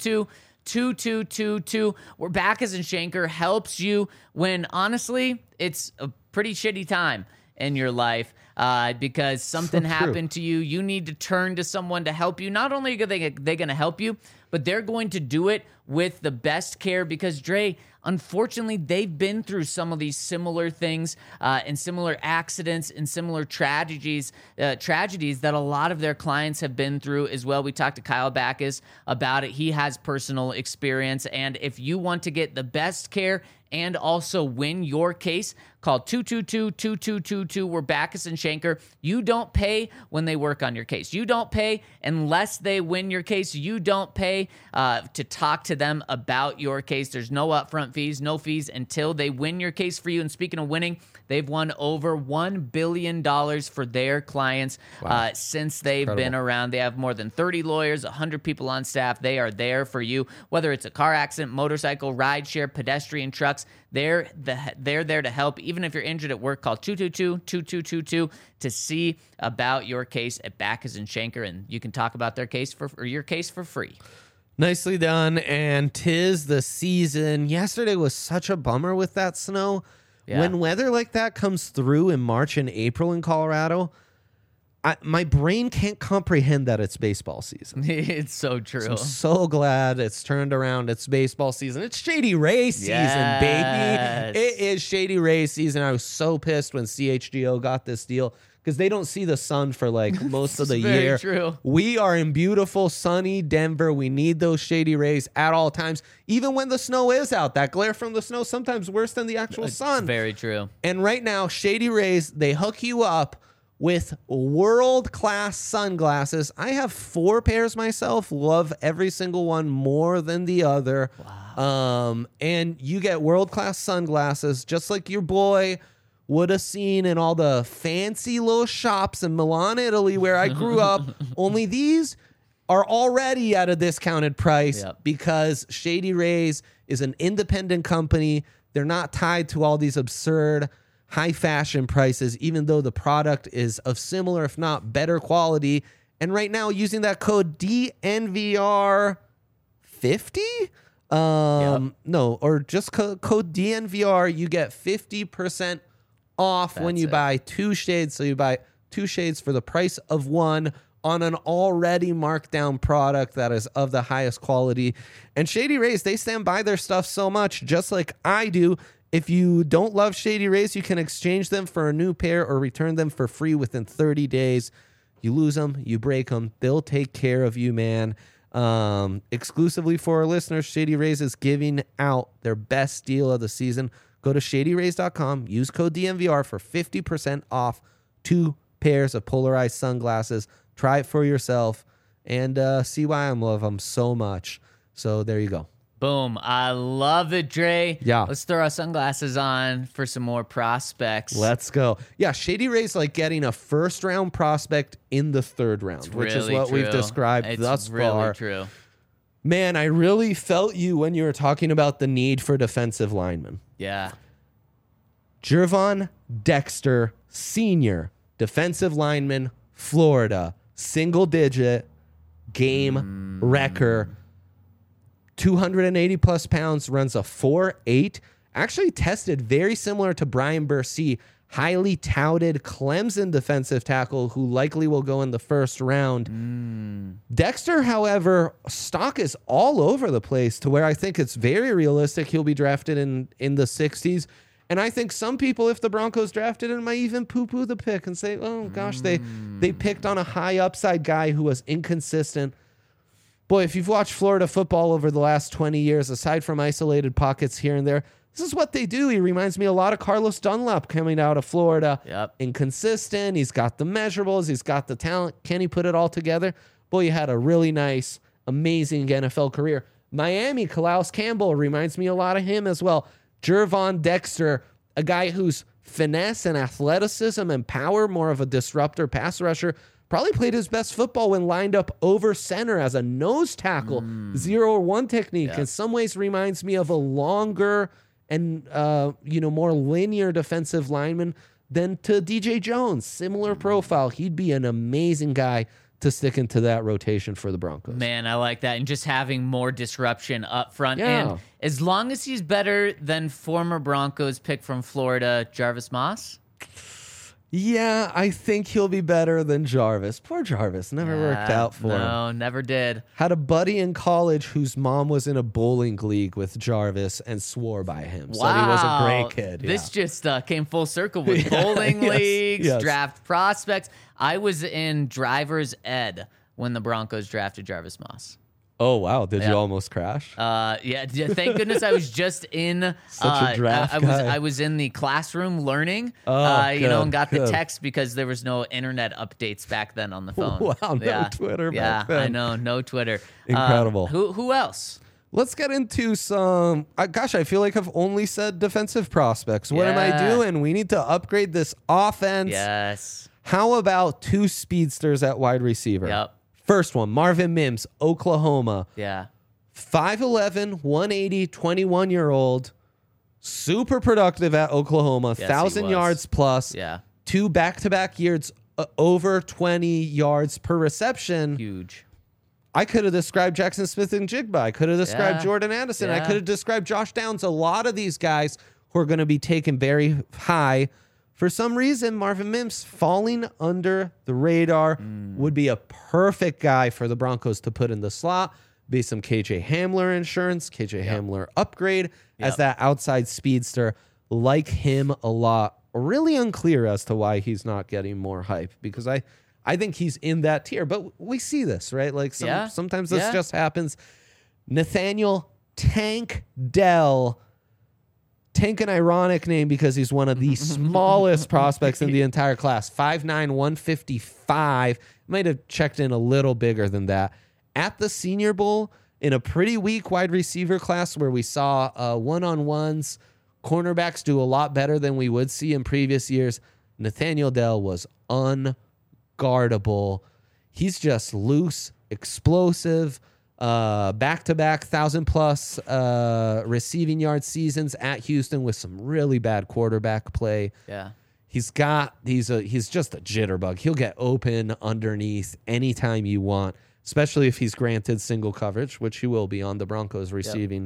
Speaker 2: 222-2222, where Backus and Shanker helps you when honestly it's a pretty shitty time in your life because something happened to you. You need to turn to someone to help you. Not only are they going to help you, but they're going to do it with the best care because, Dre, unfortunately, they've been through some of these similar things and similar accidents and similar tragedies that a lot of their clients have been through as well. We talked to Kyle Backus about it. He has personal experience. And if you want to get the best care and also win your case, call 222-2222. We're Backus and Shanker. You don't pay when they work on your case. You don't pay unless they win your case. You don't pay to talk to to them about your case. There's no upfront fees, no fees until they win your case for you. And speaking of winning, they've won over $1 billion for their clients since they've been around. They have more than 30 lawyers, 100 people on staff. They are there for you, whether it's a car accident, motorcycle, rideshare, pedestrian, trucks. They're there to help. Even if you're injured at work, call 222-2222 to see about your case at Backus and Schenker, and you can talk about your case for free.
Speaker 3: Nicely done. And 'tis the season. Yesterday was such a bummer with that snow.
Speaker 2: Yeah.
Speaker 3: When weather like that comes through in March and April in Colorado, my brain can't comprehend that it's baseball season.
Speaker 2: It's so true.
Speaker 3: I'm so glad it's turned around. It's baseball season. It's Shady Rays season, baby. It is Shady Rays season. I was so pissed when CHGO got this deal because they don't see the sun for like most of the year.
Speaker 2: True.
Speaker 3: We are in beautiful, sunny Denver. We need those Shady Rays at all times, even when the snow is out. That glare from the snow sometimes worse than the actual sun.
Speaker 2: Very true.
Speaker 3: And right now, Shady Rays, they hook you up with world-class sunglasses. I have 4 pairs myself. Love every single one more than the other. Wow. And you get world-class sunglasses, just like your boy would have seen in all the fancy little shops in Milan, Italy, where I grew up. Only these are already at a discounted price because Shady Rays is an independent company. They're not tied to all these absurd high fashion prices, even though the product is of similar, if not better quality. And right now, using that code DNVR50, no, or just code DNVR, you get 50% off when you buy 2 shades. So you buy 2 shades for the price of 1 on an already marked down product that is of the highest quality. And Shady Rays, they stand by their stuff so much, just like I do. If you don't love Shady Rays, you can exchange them for a new pair or return them for free within 30 days. You lose them, you break them, they'll take care of you, man. Exclusively for our listeners, Shady Rays is giving out their best deal of the season. Go to shadyrays.com, use code DNVR for 50% off 2 pairs of polarized sunglasses. Try it for yourself and see why I love them so much. So there you go.
Speaker 2: Boom. I love it, Dre.
Speaker 3: Yeah.
Speaker 2: Let's throw our sunglasses on for some more prospects.
Speaker 3: Let's go. Yeah, Shady Rays like getting a first-round prospect in the 3rd round, which is what we've described thus far.
Speaker 2: It's really true.
Speaker 3: Man, I really felt you when you were talking about the need for defensive linemen.
Speaker 2: Yeah.
Speaker 3: Gervon Dexter, senior, defensive lineman, Florida, single-digit, game wrecker. 280 plus pounds, runs a 4.8. Actually tested very similar to Brian Bursey, highly touted Clemson defensive tackle who likely will go in the 1st round. Dexter, however, stock is all over the place to where I think it's very realistic he'll be drafted in the 60s. And I think some people, if the Broncos drafted him, might even poo-poo the pick and say, oh, gosh, they picked on a high upside guy who was inconsistent. Boy, if you've watched Florida football over the last 20 years, aside from isolated pockets here and there, this is what they do. He reminds me a lot of Carlos Dunlap coming out of Florida.
Speaker 2: Yep.
Speaker 3: Inconsistent. He's got the measurables. He's got the talent. Can he put it all together? Boy, he had a really nice, amazing NFL career. Miami, Calais Campbell reminds me a lot of him as well. Gervon Dexter, a guy whose finesse and athleticism and power, more of a disruptor pass rusher, probably played his best football when lined up over center as a nose tackle, 0-1 technique.
Speaker 2: Yeah.
Speaker 3: In some ways reminds me of a longer and more linear defensive lineman than to DJ Jones. Similar profile. He'd be an amazing guy to stick into that rotation for the Broncos.
Speaker 2: Man, I like that. And just having more disruption up front.
Speaker 3: Yeah.
Speaker 2: And as long as he's better than former Broncos pick from Florida, Jarvis Moss.
Speaker 3: Yeah, I think he'll be better than Jarvis. Poor Jarvis. Never worked out for him.
Speaker 2: No, never did.
Speaker 3: Had a buddy in college whose mom was in a bowling league with Jarvis and swore by him.
Speaker 2: Wow.
Speaker 3: So he was a great kid.
Speaker 2: This just came full circle with bowling leagues, draft prospects. I was in driver's ed when the Broncos drafted Jarvis Moss.
Speaker 3: Oh, wow. Did you almost crash?
Speaker 2: Yeah. Thank goodness I was just in
Speaker 3: Such a draft guy.
Speaker 2: I was in the classroom learning,
Speaker 3: good,
Speaker 2: and got the text because there was no internet updates back then on the phone.
Speaker 3: Wow, no Twitter back then.
Speaker 2: I know, no Twitter.
Speaker 3: Incredible.
Speaker 2: Who else?
Speaker 3: Let's get into some. Gosh, I feel like I've only said defensive prospects. What am I
Speaker 2: Yeah.
Speaker 3: doing? We need to upgrade this offense.
Speaker 2: Yes.
Speaker 3: How about two speedsters at wide receiver?
Speaker 2: Yep.
Speaker 3: First one, Marvin Mims, Oklahoma.
Speaker 2: Yeah.
Speaker 3: 5'11", 180, 21-year-old. Super productive at Oklahoma.
Speaker 2: Yes, he
Speaker 3: 1,000
Speaker 2: was.
Speaker 3: yards plus.
Speaker 2: Yeah.
Speaker 3: 2 back-to-back years over 20 yards per reception.
Speaker 2: Huge.
Speaker 3: I could have described Jackson Smith and Jigba. I could have described
Speaker 2: Yeah.
Speaker 3: Jordan Addison. I
Speaker 2: Yeah.
Speaker 3: could have described Josh Downs. A lot of these guys who are going to be taken very high. For some reason, Marvin Mims falling under the radar would be a perfect guy for the Broncos to put in the slot. Be some KJ Hamler insurance, KJ Hamler upgrade as that outside speedster. Like him a lot. Really unclear as to why he's not getting more hype, because I think he's in that tier. But we see this, right? Like sometimes this just happens. Nathaniel Tank Dell. Tank, an ironic name because he's one of the smallest prospects in the entire class. 5'9", 155. Might have checked in a little bigger than that. At the Senior Bowl, in a pretty weak wide receiver class where we saw one-on-ones, cornerbacks do a lot better than we would see in previous years, Nathaniel Dell was unguardable. He's just loose, explosive, back-to-back 1,000+ receiving yard seasons at Houston with some really bad quarterback play.
Speaker 2: Yeah.
Speaker 3: He's just a jitterbug. He'll get open underneath anytime you want, especially if he's granted single coverage, which he will be on the Broncos receiving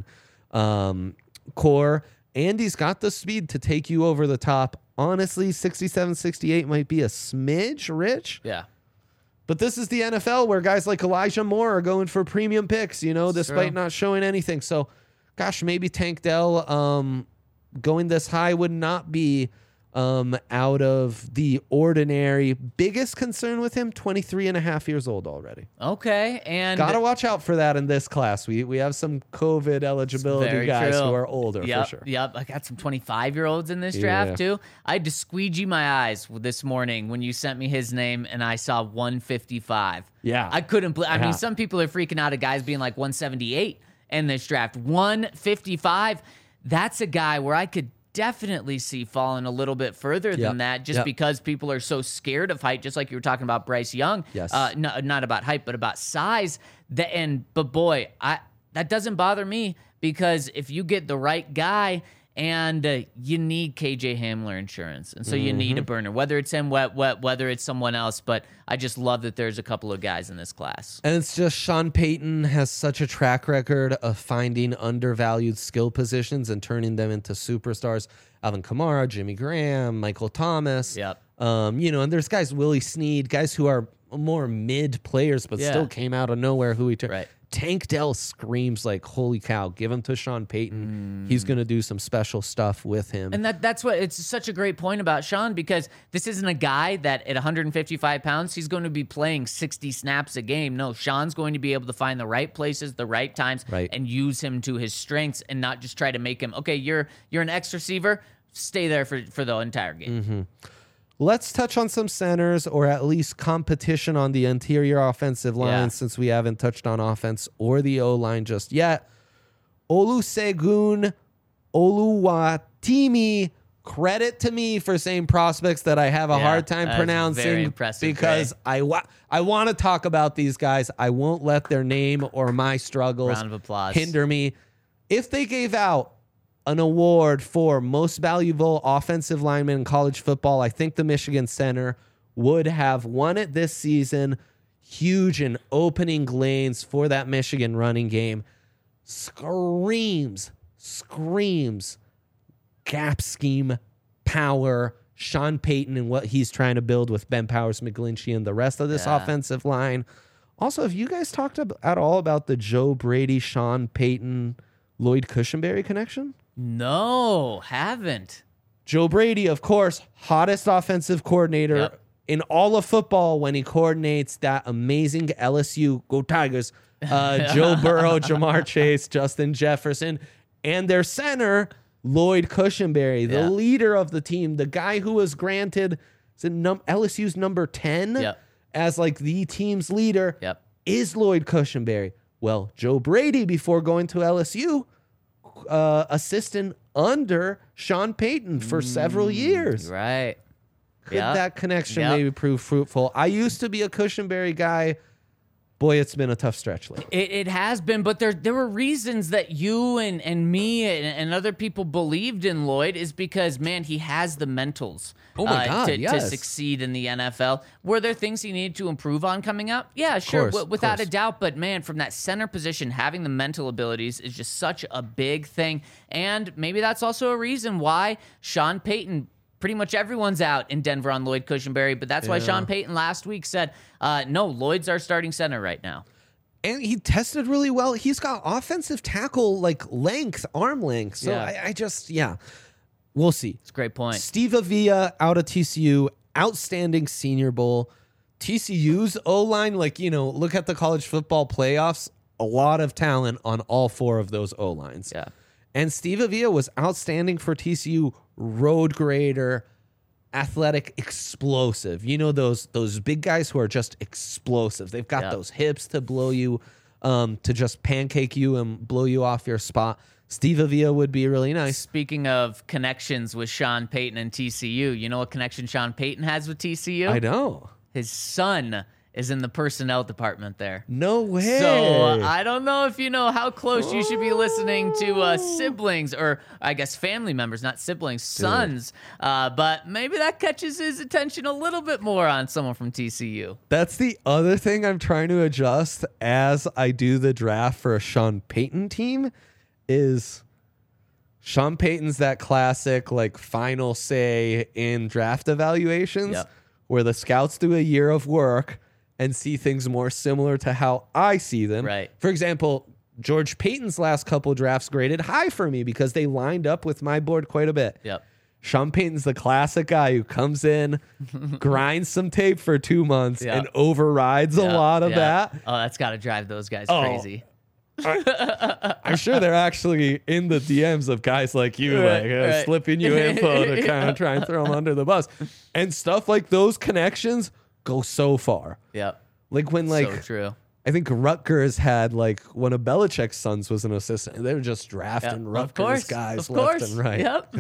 Speaker 3: core. And he's got the speed to take you over the top. Honestly, 67, 68 might be a smidge rich.
Speaker 2: Yeah.
Speaker 3: But this is the NFL where guys like Elijah Moore are going for premium picks, despite not showing anything. So, gosh, maybe Tank Dell going this high would not be out of the ordinary. Biggest concern with him, 23 and a half years old already.
Speaker 2: Okay. And
Speaker 3: Got to watch out for that in this class. We have some COVID eligibility
Speaker 2: very
Speaker 3: guys
Speaker 2: true.
Speaker 3: who are older
Speaker 2: Yep,
Speaker 3: for sure.
Speaker 2: Yep. I got some 25-year-olds in this draft too. I had to squeegee my eyes this morning when you sent me his name and I saw 155.
Speaker 3: Yeah.
Speaker 2: I couldn't believe. I
Speaker 3: Yeah.
Speaker 2: mean, some people are freaking out at guys being like 178 in this draft. 155. That's a guy where I could definitely see falling a little bit further than that, just because people are so scared of height, just like you were talking about Bryce Young.
Speaker 3: Yes.
Speaker 2: Not about height, but about size. But boy, that doesn't bother me, because if you get the right guy, and you need KJ Hamler insurance, and so you need a burner, whether it's him, whether it's someone else. But I just love that there's a couple of guys in this class.
Speaker 3: And it's just Sean Payton has such a track record of finding undervalued skill positions and turning them into superstars. Alvin Kamara, Jimmy Graham, Michael Thomas.
Speaker 2: Yep.
Speaker 3: And there's guys, Willie Snead, guys who are more mid players, but still came out of nowhere who he turned.
Speaker 2: Right.
Speaker 3: Tank Dell screams like, holy cow, give him to Sean Payton. He's going to do some special stuff with him.
Speaker 2: And that's what, it's such a great point about Sean, because this isn't a guy that at 155 pounds, he's going to be playing 60 snaps a game. No, Sean's going to be able to find the right places, the right times, and use him to his strengths, and not just try to make him, okay, you're an X receiver, stay there for the entire game.
Speaker 3: Let's touch on some centers, or at least competition on the interior offensive line, since we haven't touched on offense or the O-line just yet. Olusegun Oluwatimi, credit to me for saying prospects that I have a hard time pronouncing,
Speaker 2: very impressive,
Speaker 3: because I want to talk about these guys. I won't let their name or my struggles
Speaker 2: Round of applause.
Speaker 3: hinder me. If they gave out an award for most valuable offensive lineman in college football, I think the Michigan center would have won it this season. Huge in opening lanes for that Michigan running game. Screams gap scheme power. Sean Payton and what he's trying to build with Ben Powers, McGlinchey, and the rest of this offensive line. Also, have you guys talked at all about the Joe Brady, Sean Payton, Lloyd Cushenberry connection?
Speaker 2: No, haven't.
Speaker 3: Joe Brady, of course, hottest offensive coordinator in all of football when he coordinates that amazing LSU, go Tigers, Joe Burrow, Jamar Chase, Justin Jefferson, and their center, Lloyd Cushenberry, the leader of the team, the guy who was granted LSU's number 10 as like the team's leader, is Lloyd Cushenberry. Well, Joe Brady, before going to LSU, assistant under Sean Payton for several years.
Speaker 2: Right.
Speaker 3: Could that connection maybe prove fruitful? I used to be a Cushenberry guy. Boy, it's been a tough stretch lately.
Speaker 2: It has been, but there were reasons that you and me and other people believed in Lloyd is because, man, he has the mentals to succeed in the NFL. Were there things he needed to improve on coming up? Yeah, sure, without a doubt. But, man, from that center position, having the mental abilities is just such a big thing. And maybe that's also a reason why Sean Payton, pretty much everyone's out in Denver on Lloyd Cushenberry, but that's why Sean Payton last week said, no, Lloyd's our starting center right now.
Speaker 3: And he tested really well. He's got offensive tackle, length, arm length. So I just, we'll see.
Speaker 2: It's a great point.
Speaker 3: Steve Avila out of TCU, outstanding Senior Bowl. TCU's O-line, look at the college football playoffs, a lot of talent on all four of those O-lines.
Speaker 2: Yeah.
Speaker 3: And Steve Avila was outstanding for TCU, road grader, athletic, explosive. Those big guys who are just explosive. They've got those hips to blow you, to just pancake you and blow you off your spot. Steve Avila would be really nice.
Speaker 2: Speaking of connections with Sean Payton and TCU, you know what connection Sean Payton has with TCU?
Speaker 3: I know.
Speaker 2: His son is in the personnel department there.
Speaker 3: No way.
Speaker 2: So I don't know if you know how close you should be listening to siblings, or I guess family members, not siblings, sons. But maybe that catches his attention a little bit more on someone from TCU.
Speaker 3: That's the other thing I'm trying to adjust as I do the draft for a Sean Payton team is Sean Payton's that classic final say in draft evaluations where the scouts do a year of work and see things more similar to how I see them.
Speaker 2: Right.
Speaker 3: For example, George Payton's last couple drafts graded high for me because they lined up with my board quite a bit.
Speaker 2: Yep.
Speaker 3: Sean Payton's the classic guy who comes in, grinds some tape for 2 months, and overrides a lot of that.
Speaker 2: Oh, that's got to drive those guys crazy.
Speaker 3: I'm sure they're actually in the DMs of guys like you, slipping you info to kind of try and throw them under the bus. And stuff like those connections go so far.
Speaker 2: Yep.
Speaker 3: When
Speaker 2: so true.
Speaker 3: I think Rutgers had one of Belichick's sons was an assistant. They were just drafting Rutgers guys left and right.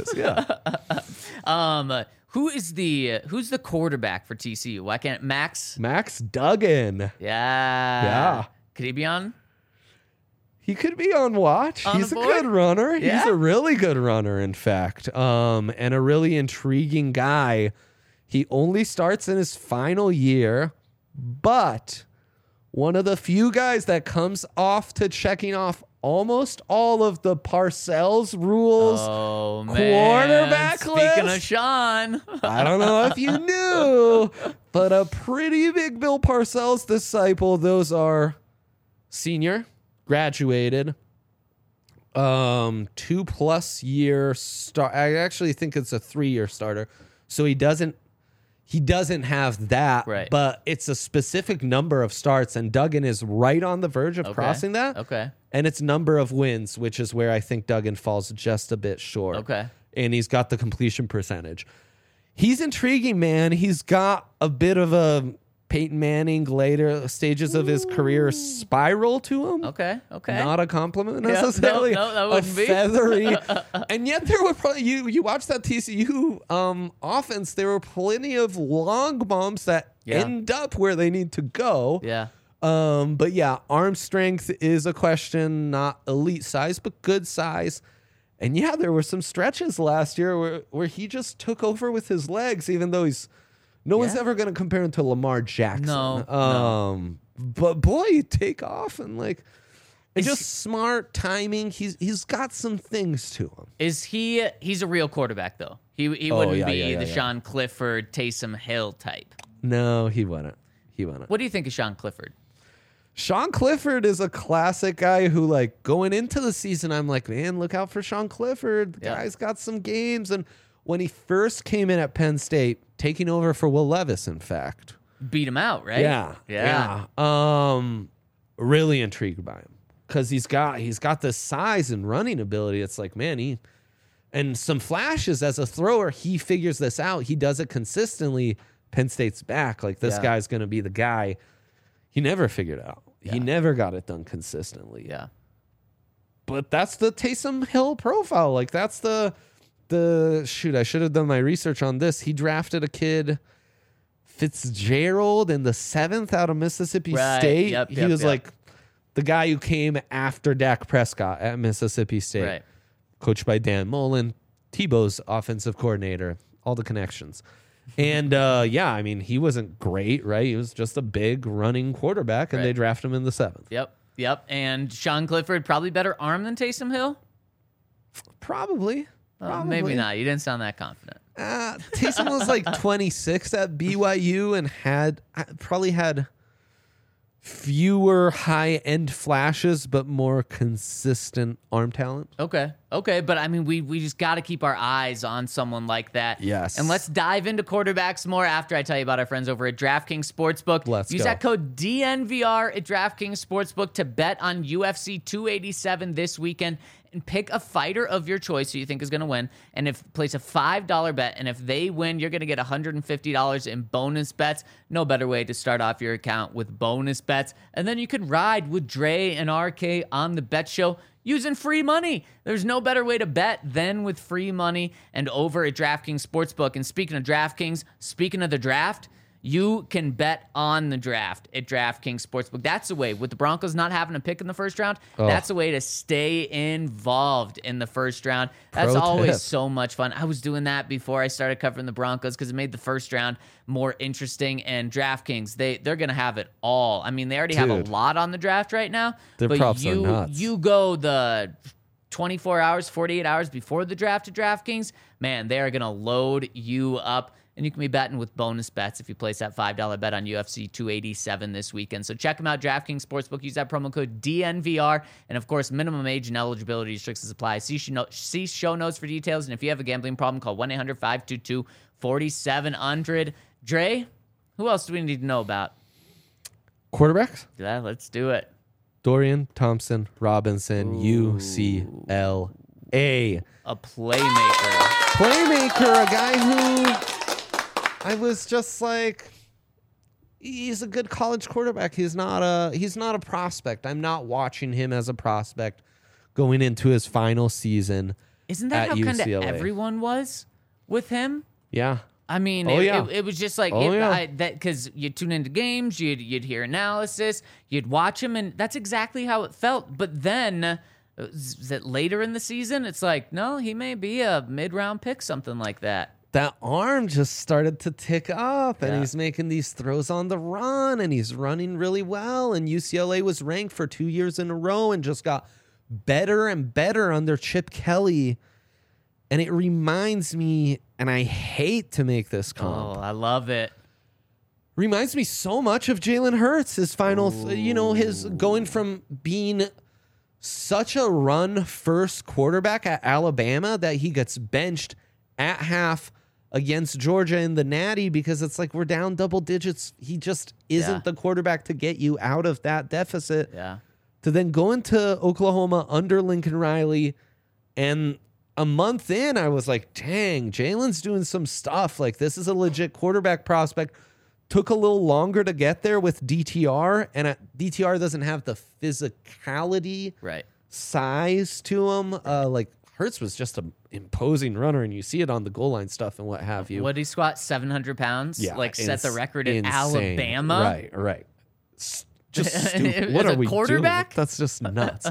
Speaker 2: Yep. Who's the quarterback for TCU? Why can't Max
Speaker 3: Duggan.
Speaker 2: Yeah. Could he be on?
Speaker 3: He could be on watch. He's a good runner.
Speaker 2: Yeah.
Speaker 3: He's a really good runner, in fact, and a really intriguing guy. He only starts in his final year, but one of the few guys that comes off to checking off almost all of the Parcells rules quarterback list.
Speaker 2: Speaking of Sean.
Speaker 3: I don't know if you knew, but a pretty big Bill Parcells disciple. Those are senior, graduated, 2+ year start. I actually think it's a 3-year starter. So he doesn't have that,
Speaker 2: right,
Speaker 3: but it's a specific number of starts, and Duggan is right on the verge of crossing that.
Speaker 2: Okay.
Speaker 3: And it's number of wins, which is where I think Duggan falls just a bit short.
Speaker 2: Okay.
Speaker 3: And he's got the completion percentage. He's intriguing, man. He's got a bit of a Peyton Manning later stages of his career spiral to him.
Speaker 2: Okay.
Speaker 3: Not a compliment necessarily.
Speaker 2: No, that wouldn't be.
Speaker 3: Feathery. And yet there were probably, you watch that TCU offense, there were plenty of long bombs that end up where they need to go.
Speaker 2: Yeah.
Speaker 3: But yeah, arm strength is a question, not elite size, but good size. And yeah, there were some stretches last year where he just took over with his legs, even though no one's ever going to compare him to Lamar Jackson.
Speaker 2: No.
Speaker 3: But boy, you take off and just smart timing. He's got some things to him.
Speaker 2: He's a real quarterback though. He wouldn't be the Sean Clifford, Taysom Hill type.
Speaker 3: No, he wouldn't.
Speaker 2: What do you think of Sean Clifford?
Speaker 3: Sean Clifford is a classic guy who going into the season, I'm like, man, look out for Sean Clifford. The guy's got some games. And when he first came in at Penn State, taking over for Will Levis, in fact.
Speaker 2: Beat him out, right?
Speaker 3: Yeah. Really intrigued by him because he's got the size and running ability. It's like, man, and some flashes as a thrower. He figures this out. He does it consistently. Penn State's back. This guy's going to be the guy. He never figured out. He never got it done consistently.
Speaker 2: Yeah.
Speaker 3: But that's the Taysom Hill profile. Like that's the shoot, I should have done my research on this. He drafted a kid, Fitzgerald, in the 7th out of Mississippi State. He was like the guy who came after Dak Prescott at Mississippi State.
Speaker 2: Right.
Speaker 3: Coached by Dan Mullen, Tebow's offensive coordinator, all the connections. And I mean, he wasn't great, right? He was just a big running quarterback, and they drafted him in the 7th.
Speaker 2: Yep. And Sean Clifford, probably better arm than Taysom Hill?
Speaker 3: Probably.
Speaker 2: Maybe not. You didn't sound that confident.
Speaker 3: Taysom was like 26 at BYU and probably had fewer high-end flashes, but more consistent arm talent.
Speaker 2: Okay. But I mean, we just got to keep our eyes on someone like that.
Speaker 3: Yes.
Speaker 2: And let's dive into quarterbacks more after I tell you about our friends over at DraftKings Sportsbook. Use that code DNVR at DraftKings Sportsbook to bet on UFC 287 this weekend and pick a fighter of your choice who you think is going to win. And place a $5 bet, and if they win, you're going to get $150 in bonus bets. No better way to start off your account with bonus bets. And then you can ride with Dre and RK on the Bet Show using free money. There's no better way to bet than with free money and over at DraftKings Sportsbook. And speaking of DraftKings, speaking of the draft, you can bet on the draft at DraftKings Sportsbook. That's a way, with the Broncos not having a pick in the first round, that's a way to stay involved in the first round. That's always so much fun. I was doing that before I started covering the Broncos because it made the first round more interesting. And DraftKings, they're going to have it all. I mean, they already have a lot on the draft right now.
Speaker 3: Their props are nuts.
Speaker 2: You go the 24 hours, 48 hours before the draft to DraftKings, man, they are going to load you up. And you can be betting with bonus bets if you place that $5 bet on UFC 287 this weekend. So check them out, DraftKings Sportsbook. Use that promo code DNVR. And, of course, minimum age and eligibility restrictions apply. See show notes for details. And if you have a gambling problem, call 1-800-522-4700. Dre, who else do we need to know about?
Speaker 3: Quarterbacks?
Speaker 2: Yeah, let's do it.
Speaker 3: Dorian Thompson Robinson, UCLA.
Speaker 2: A playmaker.
Speaker 3: A guy who I was just like, he's a good college quarterback. He's not a prospect. I'm not watching him as a prospect going into his final season.
Speaker 2: Isn't that
Speaker 3: at
Speaker 2: how kind of
Speaker 3: UCLA.
Speaker 2: everyone was with him?
Speaker 3: Yeah.
Speaker 2: I mean, it was just like because you tune into games, you'd hear analysis, you'd watch him, and that's exactly how it felt. But then, is it later in the season? It's like, no, he may be a mid-round pick, something like that.
Speaker 3: That arm just started to tick up, and he's making these throws on the run, and he's running really well. And UCLA was ranked for 2 years in a row and just got better and better under Chip Kelly. And it reminds me, and I hate to make this comp.
Speaker 2: Oh, I love it.
Speaker 3: Reminds me so much of Jalen Hurts, his final, his going from being such a run-first quarterback at Alabama that he gets benched at half against Georgia in the Natty because it's like we're down double digits. He just isn't the quarterback to get you out of that deficit.
Speaker 2: Yeah.
Speaker 3: To then go into Oklahoma under Lincoln Riley, and a month in, I was like, dang, Jalen's doing some stuff. Like, this is a legit quarterback prospect. Took a little longer to get there with DTR, and DTR doesn't have the physicality, size to him. Like, Hurts was just an imposing runner, and you see it on the goal line stuff and what have you.
Speaker 2: What did he squat? 700 pounds?
Speaker 3: Yeah,
Speaker 2: set the record in
Speaker 3: insane.
Speaker 2: Alabama?
Speaker 3: Right. Just stupid. What are we
Speaker 2: quarterback?
Speaker 3: doing? That's just nuts.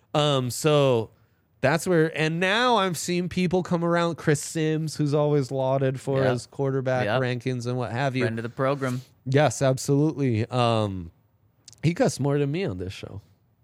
Speaker 3: So that's where, and now I'm seeing people come around. Chris Sims, who's always lauded for his quarterback rankings and what have you.
Speaker 2: Friend of the program.
Speaker 3: Yes, absolutely. He cussed more than me on this show.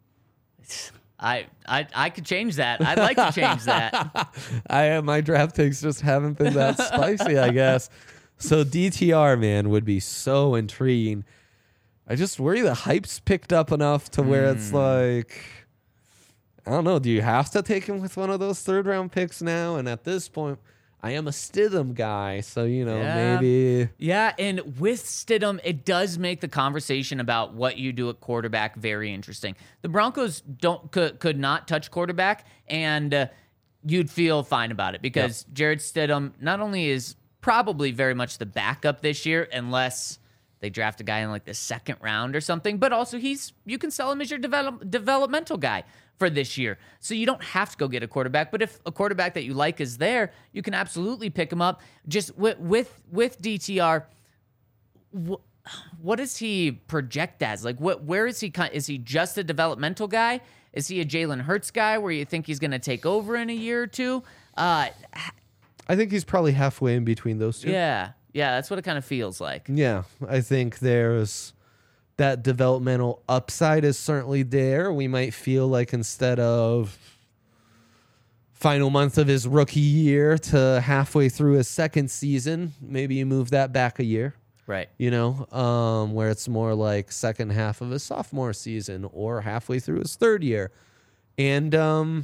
Speaker 2: I could change that. I'd like to change that.
Speaker 3: My draft takes just haven't been that spicy, I guess. So DTR, man, would be so intriguing. I just worry the hype's picked up enough to where it's like, I don't know. Do you have to take him with one of those third-round picks now? And at this point, I am a Stidham guy, so, maybe.
Speaker 2: Yeah, and with Stidham, it does make the conversation about what you do at quarterback very interesting. The Broncos could not touch quarterback, and you'd feel fine about it because Jarrett Stidham not only is probably very much the backup this year, unless they draft a guy in like the second round or something. But also you can sell him as your developmental guy for this year. So you don't have to go get a quarterback. But if a quarterback that you like is there, you can absolutely pick him up. Just with DTR, what does he project as? Like, where is he? Is he just a developmental guy? Is he a Jalen Hurts guy where you think he's going to take over in a year or two?
Speaker 3: I think he's probably halfway in between those two.
Speaker 2: Yeah, that's what it kind of feels like.
Speaker 3: Yeah, I think there's that developmental upside is certainly there. We might feel like instead of final month of his rookie year to halfway through his second season, maybe you move that back a year.
Speaker 2: Right.
Speaker 3: Where it's more like second half of his sophomore season or halfway through his third year. And,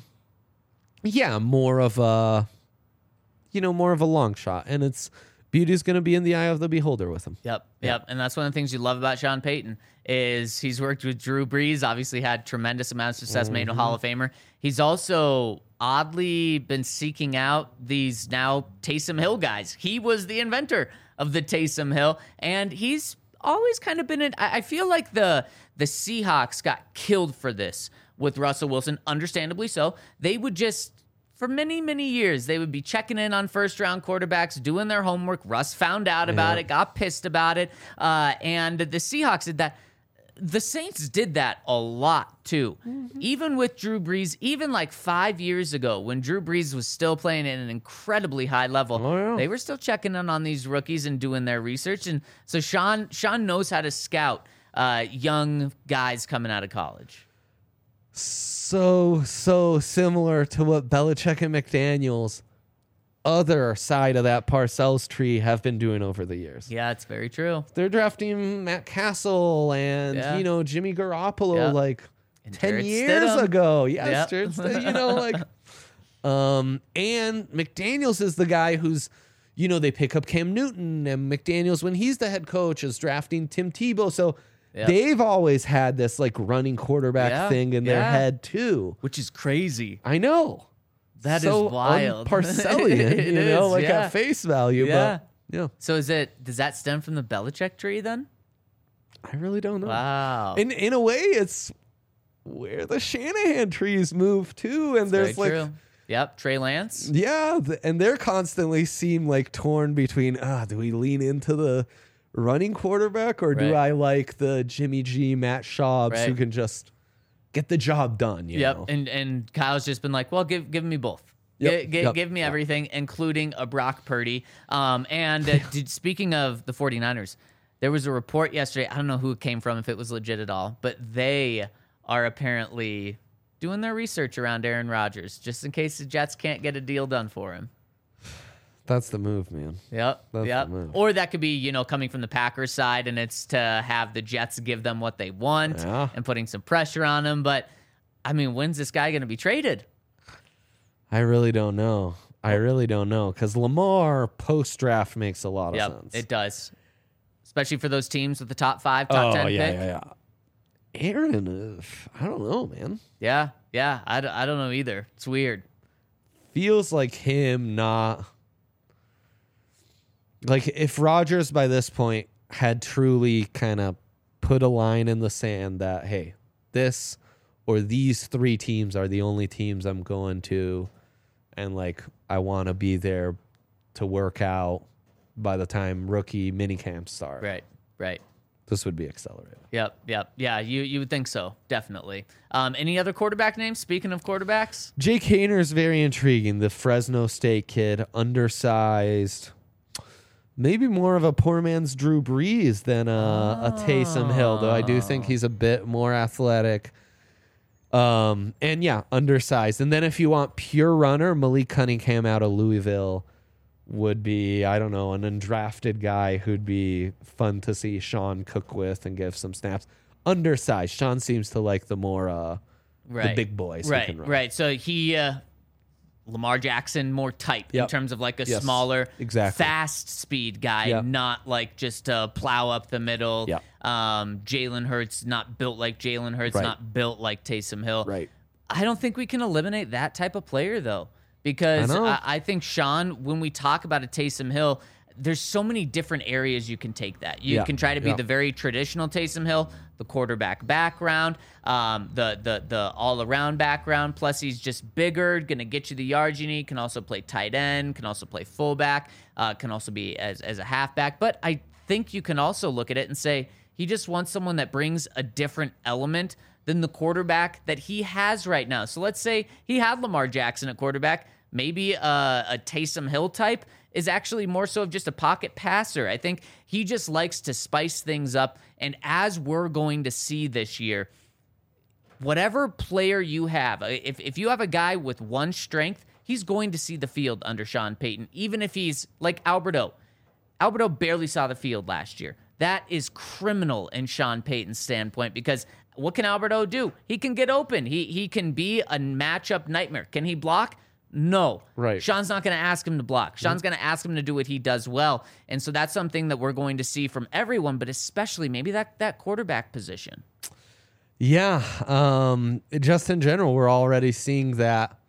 Speaker 3: more of a long shot. And it's beauty's going to be in the eye of the beholder with him.
Speaker 2: Yep. And that's one of the things you love about Sean Payton is he's worked with Drew Brees, obviously had tremendous amounts of success, made a Hall of Famer. He's also oddly been seeking out these now Taysom Hill guys. He was the inventor of the Taysom Hill, and he's always kind of been I feel like the Seahawks got killed for this with Russell Wilson, understandably so. They would just, for many, many years, they would be checking in on first-round quarterbacks, doing their homework. Russ found out about it, got pissed about it, and the Seahawks did that. The Saints did that a lot, too. Even with Drew Brees, even like 5 years ago when Drew Brees was still playing at an incredibly high level, they were still checking in on these rookies and doing their research. And so Sean knows how to scout young guys coming out of college.
Speaker 3: So similar to what Belichick and McDaniels, other side of that Parcells tree, have been doing over the years.
Speaker 2: Yeah, it's very true.
Speaker 3: They're drafting Matt Castle and Jimmy Garoppolo like
Speaker 2: and
Speaker 3: 10
Speaker 2: Jarrett
Speaker 3: years
Speaker 2: Stidham.
Speaker 3: ago. Yes,
Speaker 2: Yep.
Speaker 3: Jarrett Stidham, and McDaniels is the guy who's, they pick up Cam Newton, and McDaniels, when he's the head coach, is drafting Tim Tebow. So they've always had this like running quarterback thing in their head too,
Speaker 2: which is crazy.
Speaker 3: I know.
Speaker 2: That
Speaker 3: so
Speaker 2: is wild.
Speaker 3: Parcellian, at face value.
Speaker 2: Yeah.
Speaker 3: But yeah.
Speaker 2: So does that stem from the Belichick tree then?
Speaker 3: I really don't know.
Speaker 2: Wow.
Speaker 3: In a way, it's where the Shanahan trees move to, and there's
Speaker 2: very
Speaker 3: like
Speaker 2: true. Yep, Trey Lance.
Speaker 3: Yeah, and they're constantly seem like torn between do we lean into the running quarterback or do I like the Jimmy G, Matt Schaubs who can just get the job done, you know?
Speaker 2: And Kyle's just been like, well, give me both. Give me everything, including a Brock Purdy. Speaking of the 49ers, there was a report yesterday. I don't know who it came from, if it was legit at all, but they are apparently doing their research around Aaron Rodgers, just in case the Jets can't get a deal done for him.
Speaker 3: That's the move, man.
Speaker 2: Yep.
Speaker 3: The move.
Speaker 2: Or that could be, coming from the Packers side, and it's to have the Jets give them what they want and putting some pressure on them. But, I mean, when's this guy going to be traded?
Speaker 3: I really don't know. Because Lamar post-draft makes a lot of sense.
Speaker 2: It does. Especially for those teams with the top 5, top 10 pick.
Speaker 3: Yeah. Aaron, I don't know, man.
Speaker 2: Yeah. I don't know either. It's weird.
Speaker 3: Feels like him not... Like, if Rodgers by this point had truly kind of put a line in the sand that, hey, this or these 3 teams are the only teams I'm going to, and, like, I want to be there to work out by the time rookie minicamps start.
Speaker 2: Right.
Speaker 3: This would be accelerated.
Speaker 2: Yep. Yeah, you would think so, definitely. Any other quarterback names, speaking of quarterbacks?
Speaker 3: Jake Hayner's very intriguing, the Fresno State kid, undersized... Maybe more of a poor man's Drew Brees than a Taysom Hill, though I do think he's a bit more athletic. Undersized. And then if you want pure runner, Malik Cunningham out of Louisville would be, I don't know, an undrafted guy who'd be fun to see Sean cook with and give some snaps. Undersized. Sean seems to like the more the big boys who can run.
Speaker 2: Right. So he... Lamar Jackson, more type in terms of like a smaller, fast speed guy, not like just to plow up the middle. Jalen Hurts, not built like Jalen Hurts, not built like Taysom Hill.
Speaker 3: Right.
Speaker 2: I don't think we can eliminate that type of player, though, because I think, Sean, when we talk about a Taysom Hill, there's so many different areas you can take that. You can try to be the very traditional Taysom Hill, the quarterback background, the all-around background. Plus, he's just bigger, going to get you the yards you need. Can also play tight end, can also play fullback, can also be as a halfback. But I think you can also look at it and say he just wants someone that brings a different element than the quarterback that he has right now. So let's say he had Lamar Jackson at quarterback. Maybe a Taysom Hill type is actually more so of just a pocket passer. I think he just likes to spice things up. And as we're going to see this year, whatever player you have, if you have a guy with one strength, he's going to see the field under Sean Payton, even if he's like Alberto. Alberto barely saw the field last year. That is criminal in Sean Payton's standpoint, because what can Alberto do? He can get open. He can be a matchup nightmare. Can he block? No.
Speaker 3: Right.
Speaker 2: Sean's not going to ask him to block. Sean's going to ask him to do what he does well. And so that's something that we're going to see from everyone, but especially maybe that quarterback position.
Speaker 3: Yeah. Just in general, we're already seeing that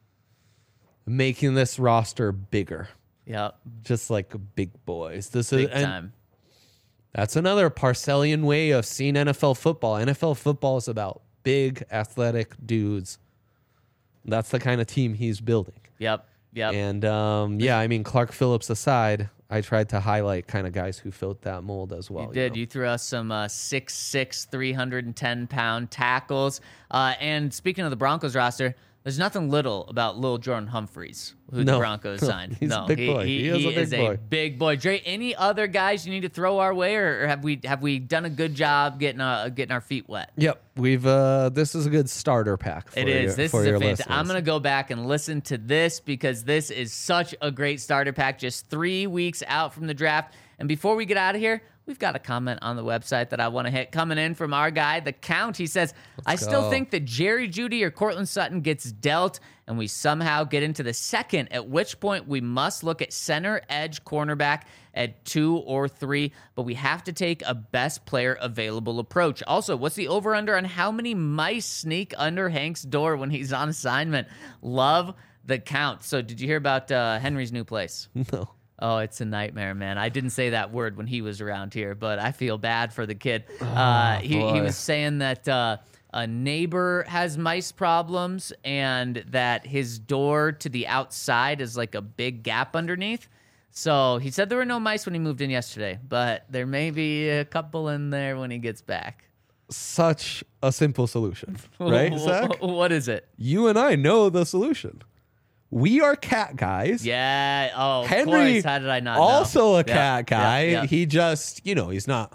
Speaker 3: making this roster bigger.
Speaker 2: Yep.
Speaker 3: Just like big boys. This
Speaker 2: Big
Speaker 3: is
Speaker 2: time.
Speaker 3: That's another Parcellian way of seeing NFL football. NFL football is about big, athletic dudes. That's the kind of team he's building.
Speaker 2: Yep.
Speaker 3: And I mean, Clark Phillips aside, I tried to highlight kind of guys who filled that mold as well.
Speaker 2: You did.
Speaker 3: know?
Speaker 2: You threw us some 6'6", 310-pound tackles. And speaking of the Broncos roster, there's nothing little about Lil Jordan Humphreys, who the Broncos signed.
Speaker 3: He's a big boy. He is
Speaker 2: a big boy. Dre, any other guys you need to throw our way, or have we done a good job getting our feet wet?
Speaker 3: Yep, we've. This is a good starter pack. For
Speaker 2: It is. This
Speaker 3: for
Speaker 2: is a
Speaker 3: your
Speaker 2: fantastic.
Speaker 3: listeners.
Speaker 2: I'm gonna go back and listen to this because this is such a great starter pack. Just 3 weeks out from the draft, and before we get out of here, we've got a comment on the website that I want to hit coming in from our guy, The Count. He says, I still think that Jerry Jeudy or Cortland Sutton gets dealt and we somehow get into the second, at which point we must look at center edge cornerback at 2 or 3, but we have to take a best player available approach. Also, what's the over-under on how many mice sneak under Hank's door when he's on assignment? Love The Count. So did you hear about Henry's new place?
Speaker 3: No.
Speaker 2: Oh, it's a nightmare, man. I didn't say that word when he was around here, but I feel bad for the kid. He was saying that a neighbor has mice problems and that his door to the outside is like a big gap underneath. So he said there were no mice when he moved in yesterday, but there may be a couple in there when he gets back.
Speaker 3: Such a simple solution, right, Zach?
Speaker 2: What is it?
Speaker 3: You and I know the solution. We are cat guys.
Speaker 2: Yeah. Oh,
Speaker 3: Henry,
Speaker 2: of course. How did I not know?
Speaker 3: also a
Speaker 2: Yeah,
Speaker 3: cat guy.
Speaker 2: yeah.
Speaker 3: He just, he's not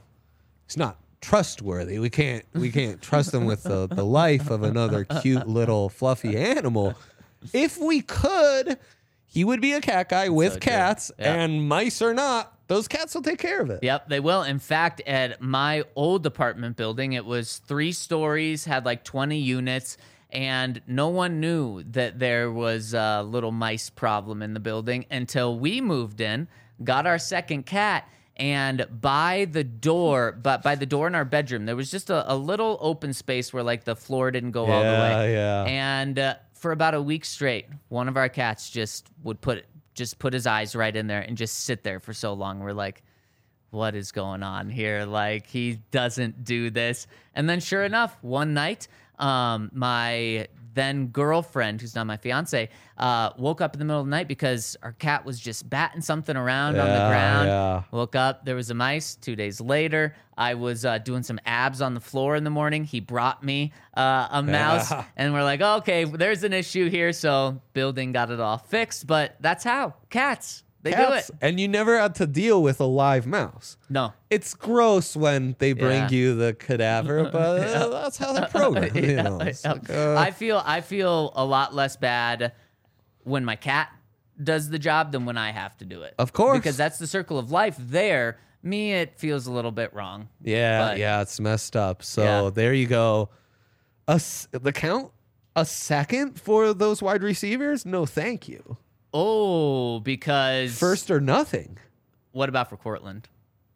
Speaker 3: trustworthy. We can't trust him with the life of another cute little fluffy animal. If we could, he would be a cat guy with
Speaker 2: so true.
Speaker 3: cats,
Speaker 2: Yeah.
Speaker 3: and mice or not, those cats will take care of it.
Speaker 2: Yep, they will. In fact, at my old apartment building, it was 3 stories, had like 20 units, and no one knew that there was a little mice problem in the building until we moved in, got our second cat, and by the door in our bedroom, there was just a little open space where like the floor didn't go all the way.
Speaker 3: Yeah.
Speaker 2: And for about a week straight, one of our cats just would put his eyes right in there and just sit there for so long. We're like, what is going on here? Like, he doesn't do this. And then sure enough, one night, my then girlfriend, who's now my fiance, woke up in the middle of the night because our cat was just batting something around on the ground.
Speaker 3: Yeah.
Speaker 2: Woke up, there was a mice. 2 days later, I was doing some abs on the floor in the morning. He brought me a mouse, and we're like, okay, there's an issue here. So building got it all fixed, but that's how cats. They do it.
Speaker 3: And you never had to deal with a live mouse.
Speaker 2: No.
Speaker 3: It's gross when they bring
Speaker 2: Yeah.
Speaker 3: you the cadaver, but that's how they're programmed. It's like,
Speaker 2: I feel a lot less bad when my cat does the job than when I have to do it.
Speaker 3: Of course.
Speaker 2: Because that's the circle of life there. Me, it feels a little bit wrong.
Speaker 3: yeah,
Speaker 2: But-
Speaker 3: it's messed up. So
Speaker 2: Yeah.
Speaker 3: there you go. The count, a second for those wide receivers? No, thank you.
Speaker 2: Oh, because...
Speaker 3: First or nothing.
Speaker 2: What about for Cortland?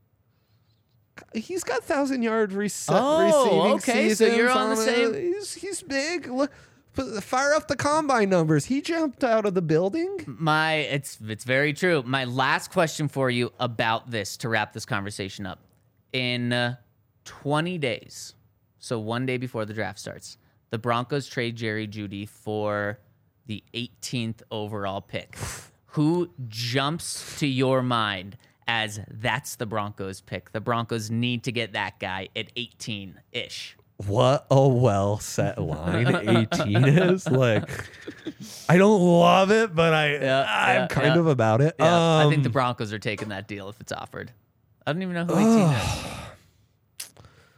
Speaker 3: He's got 1,000-yard
Speaker 2: Oh,
Speaker 3: receiving
Speaker 2: okay, so
Speaker 3: seasons
Speaker 2: you're on the
Speaker 3: it.
Speaker 2: same-
Speaker 3: He's big. Look, Fire up the combine numbers. He jumped out of the building.
Speaker 2: It's very true. My last question for you about this to wrap this conversation up. In 20 days, so one day before the draft starts, the Broncos trade Jerry Jeudy for the 18th overall pick. Who jumps to your mind as that's the Broncos pick? The Broncos need to get that guy at 18-ish.
Speaker 3: What a well set line 18 is. Like, I don't love it, but I'm kind of about it.
Speaker 2: Yeah, I think the Broncos are taking that deal if it's offered. I don't even know who 18 is.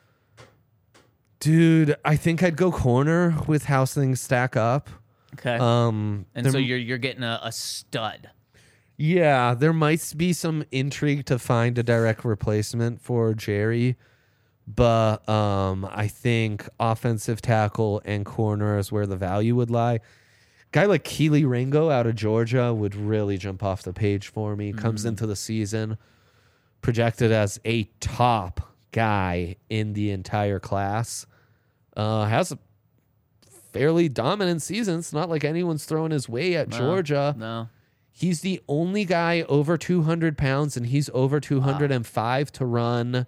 Speaker 3: Dude, I think I'd go corner with how things stack up.
Speaker 2: Okay. And so you're getting a stud.
Speaker 3: Yeah, there might be some intrigue to find a direct replacement for Jerry. But I think offensive tackle and corner is where the value would lie. Guy like Keely Ringo out of Georgia would really jump off the page for me. Comes into the season projected as a top guy in the entire class. Has a fairly dominant season. It's not like anyone's throwing his way at Georgia.
Speaker 2: No.
Speaker 3: He's the only guy over 200 pounds, and he's over 205 to run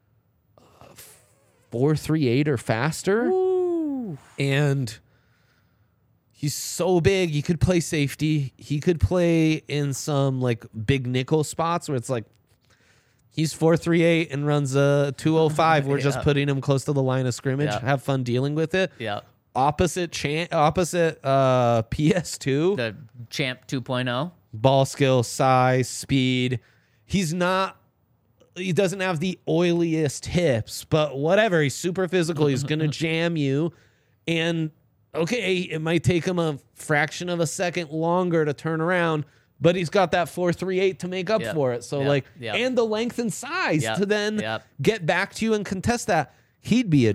Speaker 3: 4.38 or faster.
Speaker 2: Ooh.
Speaker 3: And he's so big. He could play safety. He could play in some like big nickel spots where it's like he's 4.38 and runs a 2.05. We're just putting him close to the line of scrimmage.
Speaker 2: Yeah.
Speaker 3: Have fun dealing with it.
Speaker 2: Yeah.
Speaker 3: Opposite PS2.
Speaker 2: The Champ 2.0.
Speaker 3: Ball skill, size, speed. He doesn't have the oiliest hips, but whatever. He's super physical. He's going to jam you. And okay, it might take him a fraction of a second longer to turn around, but he's got that 4.38 to make up for it. So and the length and size to then get back to you and contest that. He'd be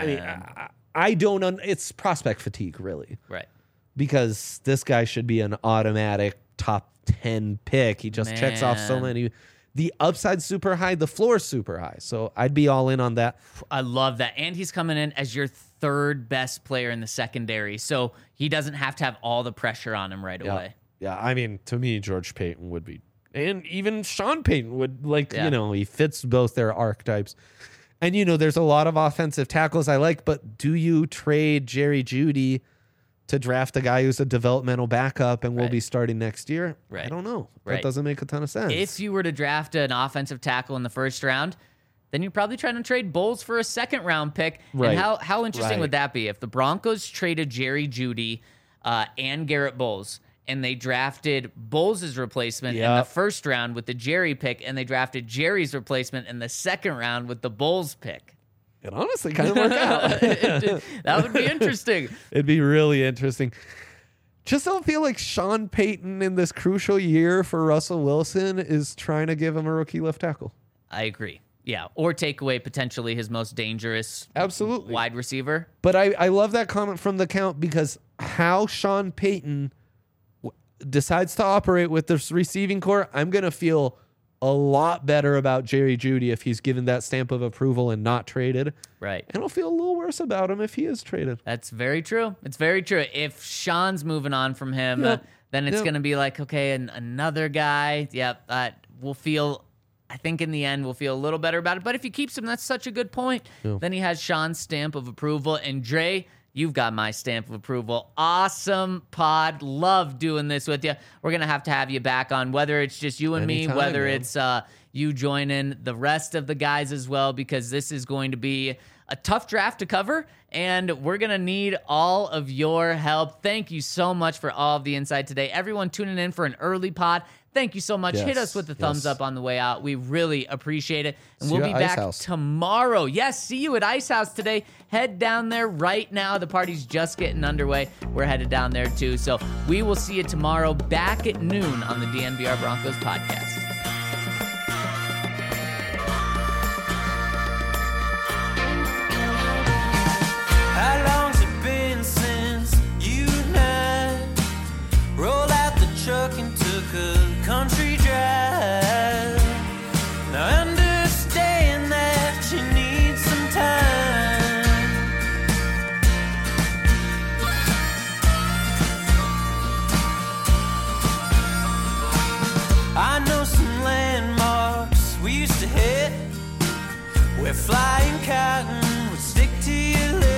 Speaker 3: I don't it's prospect fatigue, really.
Speaker 2: Right.
Speaker 3: Because this guy should be an automatic top 10 pick. He just checks off so many. The upside's super high, the floor's super high. So I'd be all in on that.
Speaker 2: I love that. And he's coming in as your third best player in the secondary. So he doesn't have to have all the pressure on him right away.
Speaker 3: Yeah, I mean, to me, George Payton would be, and even Sean Payton would, he fits both their archetypes. And, there's a lot of offensive tackles I like, but do you trade Jerry Jeudy to draft a guy who's a developmental backup and will be starting next year?
Speaker 2: Right.
Speaker 3: I don't know. That doesn't make a ton of sense.
Speaker 2: If you were to draft an offensive tackle in the first round, then you're probably trying to trade Bowles for a second-round pick.
Speaker 3: Right.
Speaker 2: And how interesting would that be if the Broncos traded Jerry Jeudy and Garrett Bowles, and they drafted Bowles' replacement in the first round with the Jerry pick, and they drafted Jerry's replacement in the second round with the Bowles pick?
Speaker 3: It honestly kind of worked out.
Speaker 2: That would be interesting.
Speaker 3: It'd be really interesting. Just don't feel like Sean Payton in this crucial year for Russell Wilson is trying to give him a rookie left tackle.
Speaker 2: I agree. Yeah, or take away potentially his most dangerous wide receiver.
Speaker 3: But I love that comment from the count because how Sean Payton decides to operate with this receiving core, I'm going to feel a lot better about Jerry Jeudy if he's given that stamp of approval and not traded.
Speaker 2: Right.
Speaker 3: And I'll feel a little worse about him if he is traded.
Speaker 2: That's very true. It's very true. If Sean's moving on from him, then it's going to be like, okay, another guy. We'll feel, I think in the end, we'll feel a little better about it. But if he keeps him, that's such a good point. Then he has Sean's stamp of approval. And Dre, you've got my stamp of approval. Awesome pod. Love doing this with you. We're going to have you back on, whether it's just you and
Speaker 3: Anytime,
Speaker 2: me, whether
Speaker 3: man.
Speaker 2: it's you joining the rest of the guys as well, because this is going to be a tough draft to cover, and we're going to need all of your help. Thank you so much for all of the insight today. Everyone tuning in for an early pod, thank you so much.
Speaker 3: Yes,
Speaker 2: Hit us with the thumbs up on the way out. We really appreciate it. And
Speaker 3: See
Speaker 2: we'll
Speaker 3: you
Speaker 2: be
Speaker 3: at Ice
Speaker 2: back
Speaker 3: House.
Speaker 2: tomorrow. Yes, see you at Ice House today. Head down there right now. The party's just getting underway. We're headed down there too. So we will see you tomorrow back at noon on the DNVR Broncos podcast.
Speaker 1: How long's it been since you and I rolled out the truck and took a country drive? Now I understand that you need some time. where flying cotton would stick to your lips.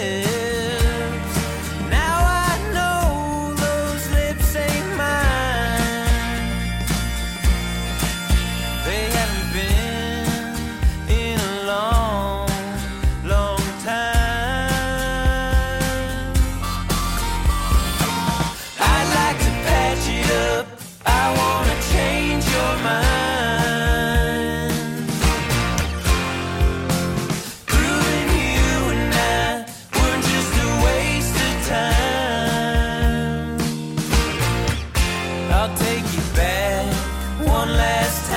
Speaker 1: Now I know those lips ain't mine. They haven't been in a long, long time. I'd like to patch it up. I wanna change your mind. Proving you and I weren't just a waste of time. I'll take you back one last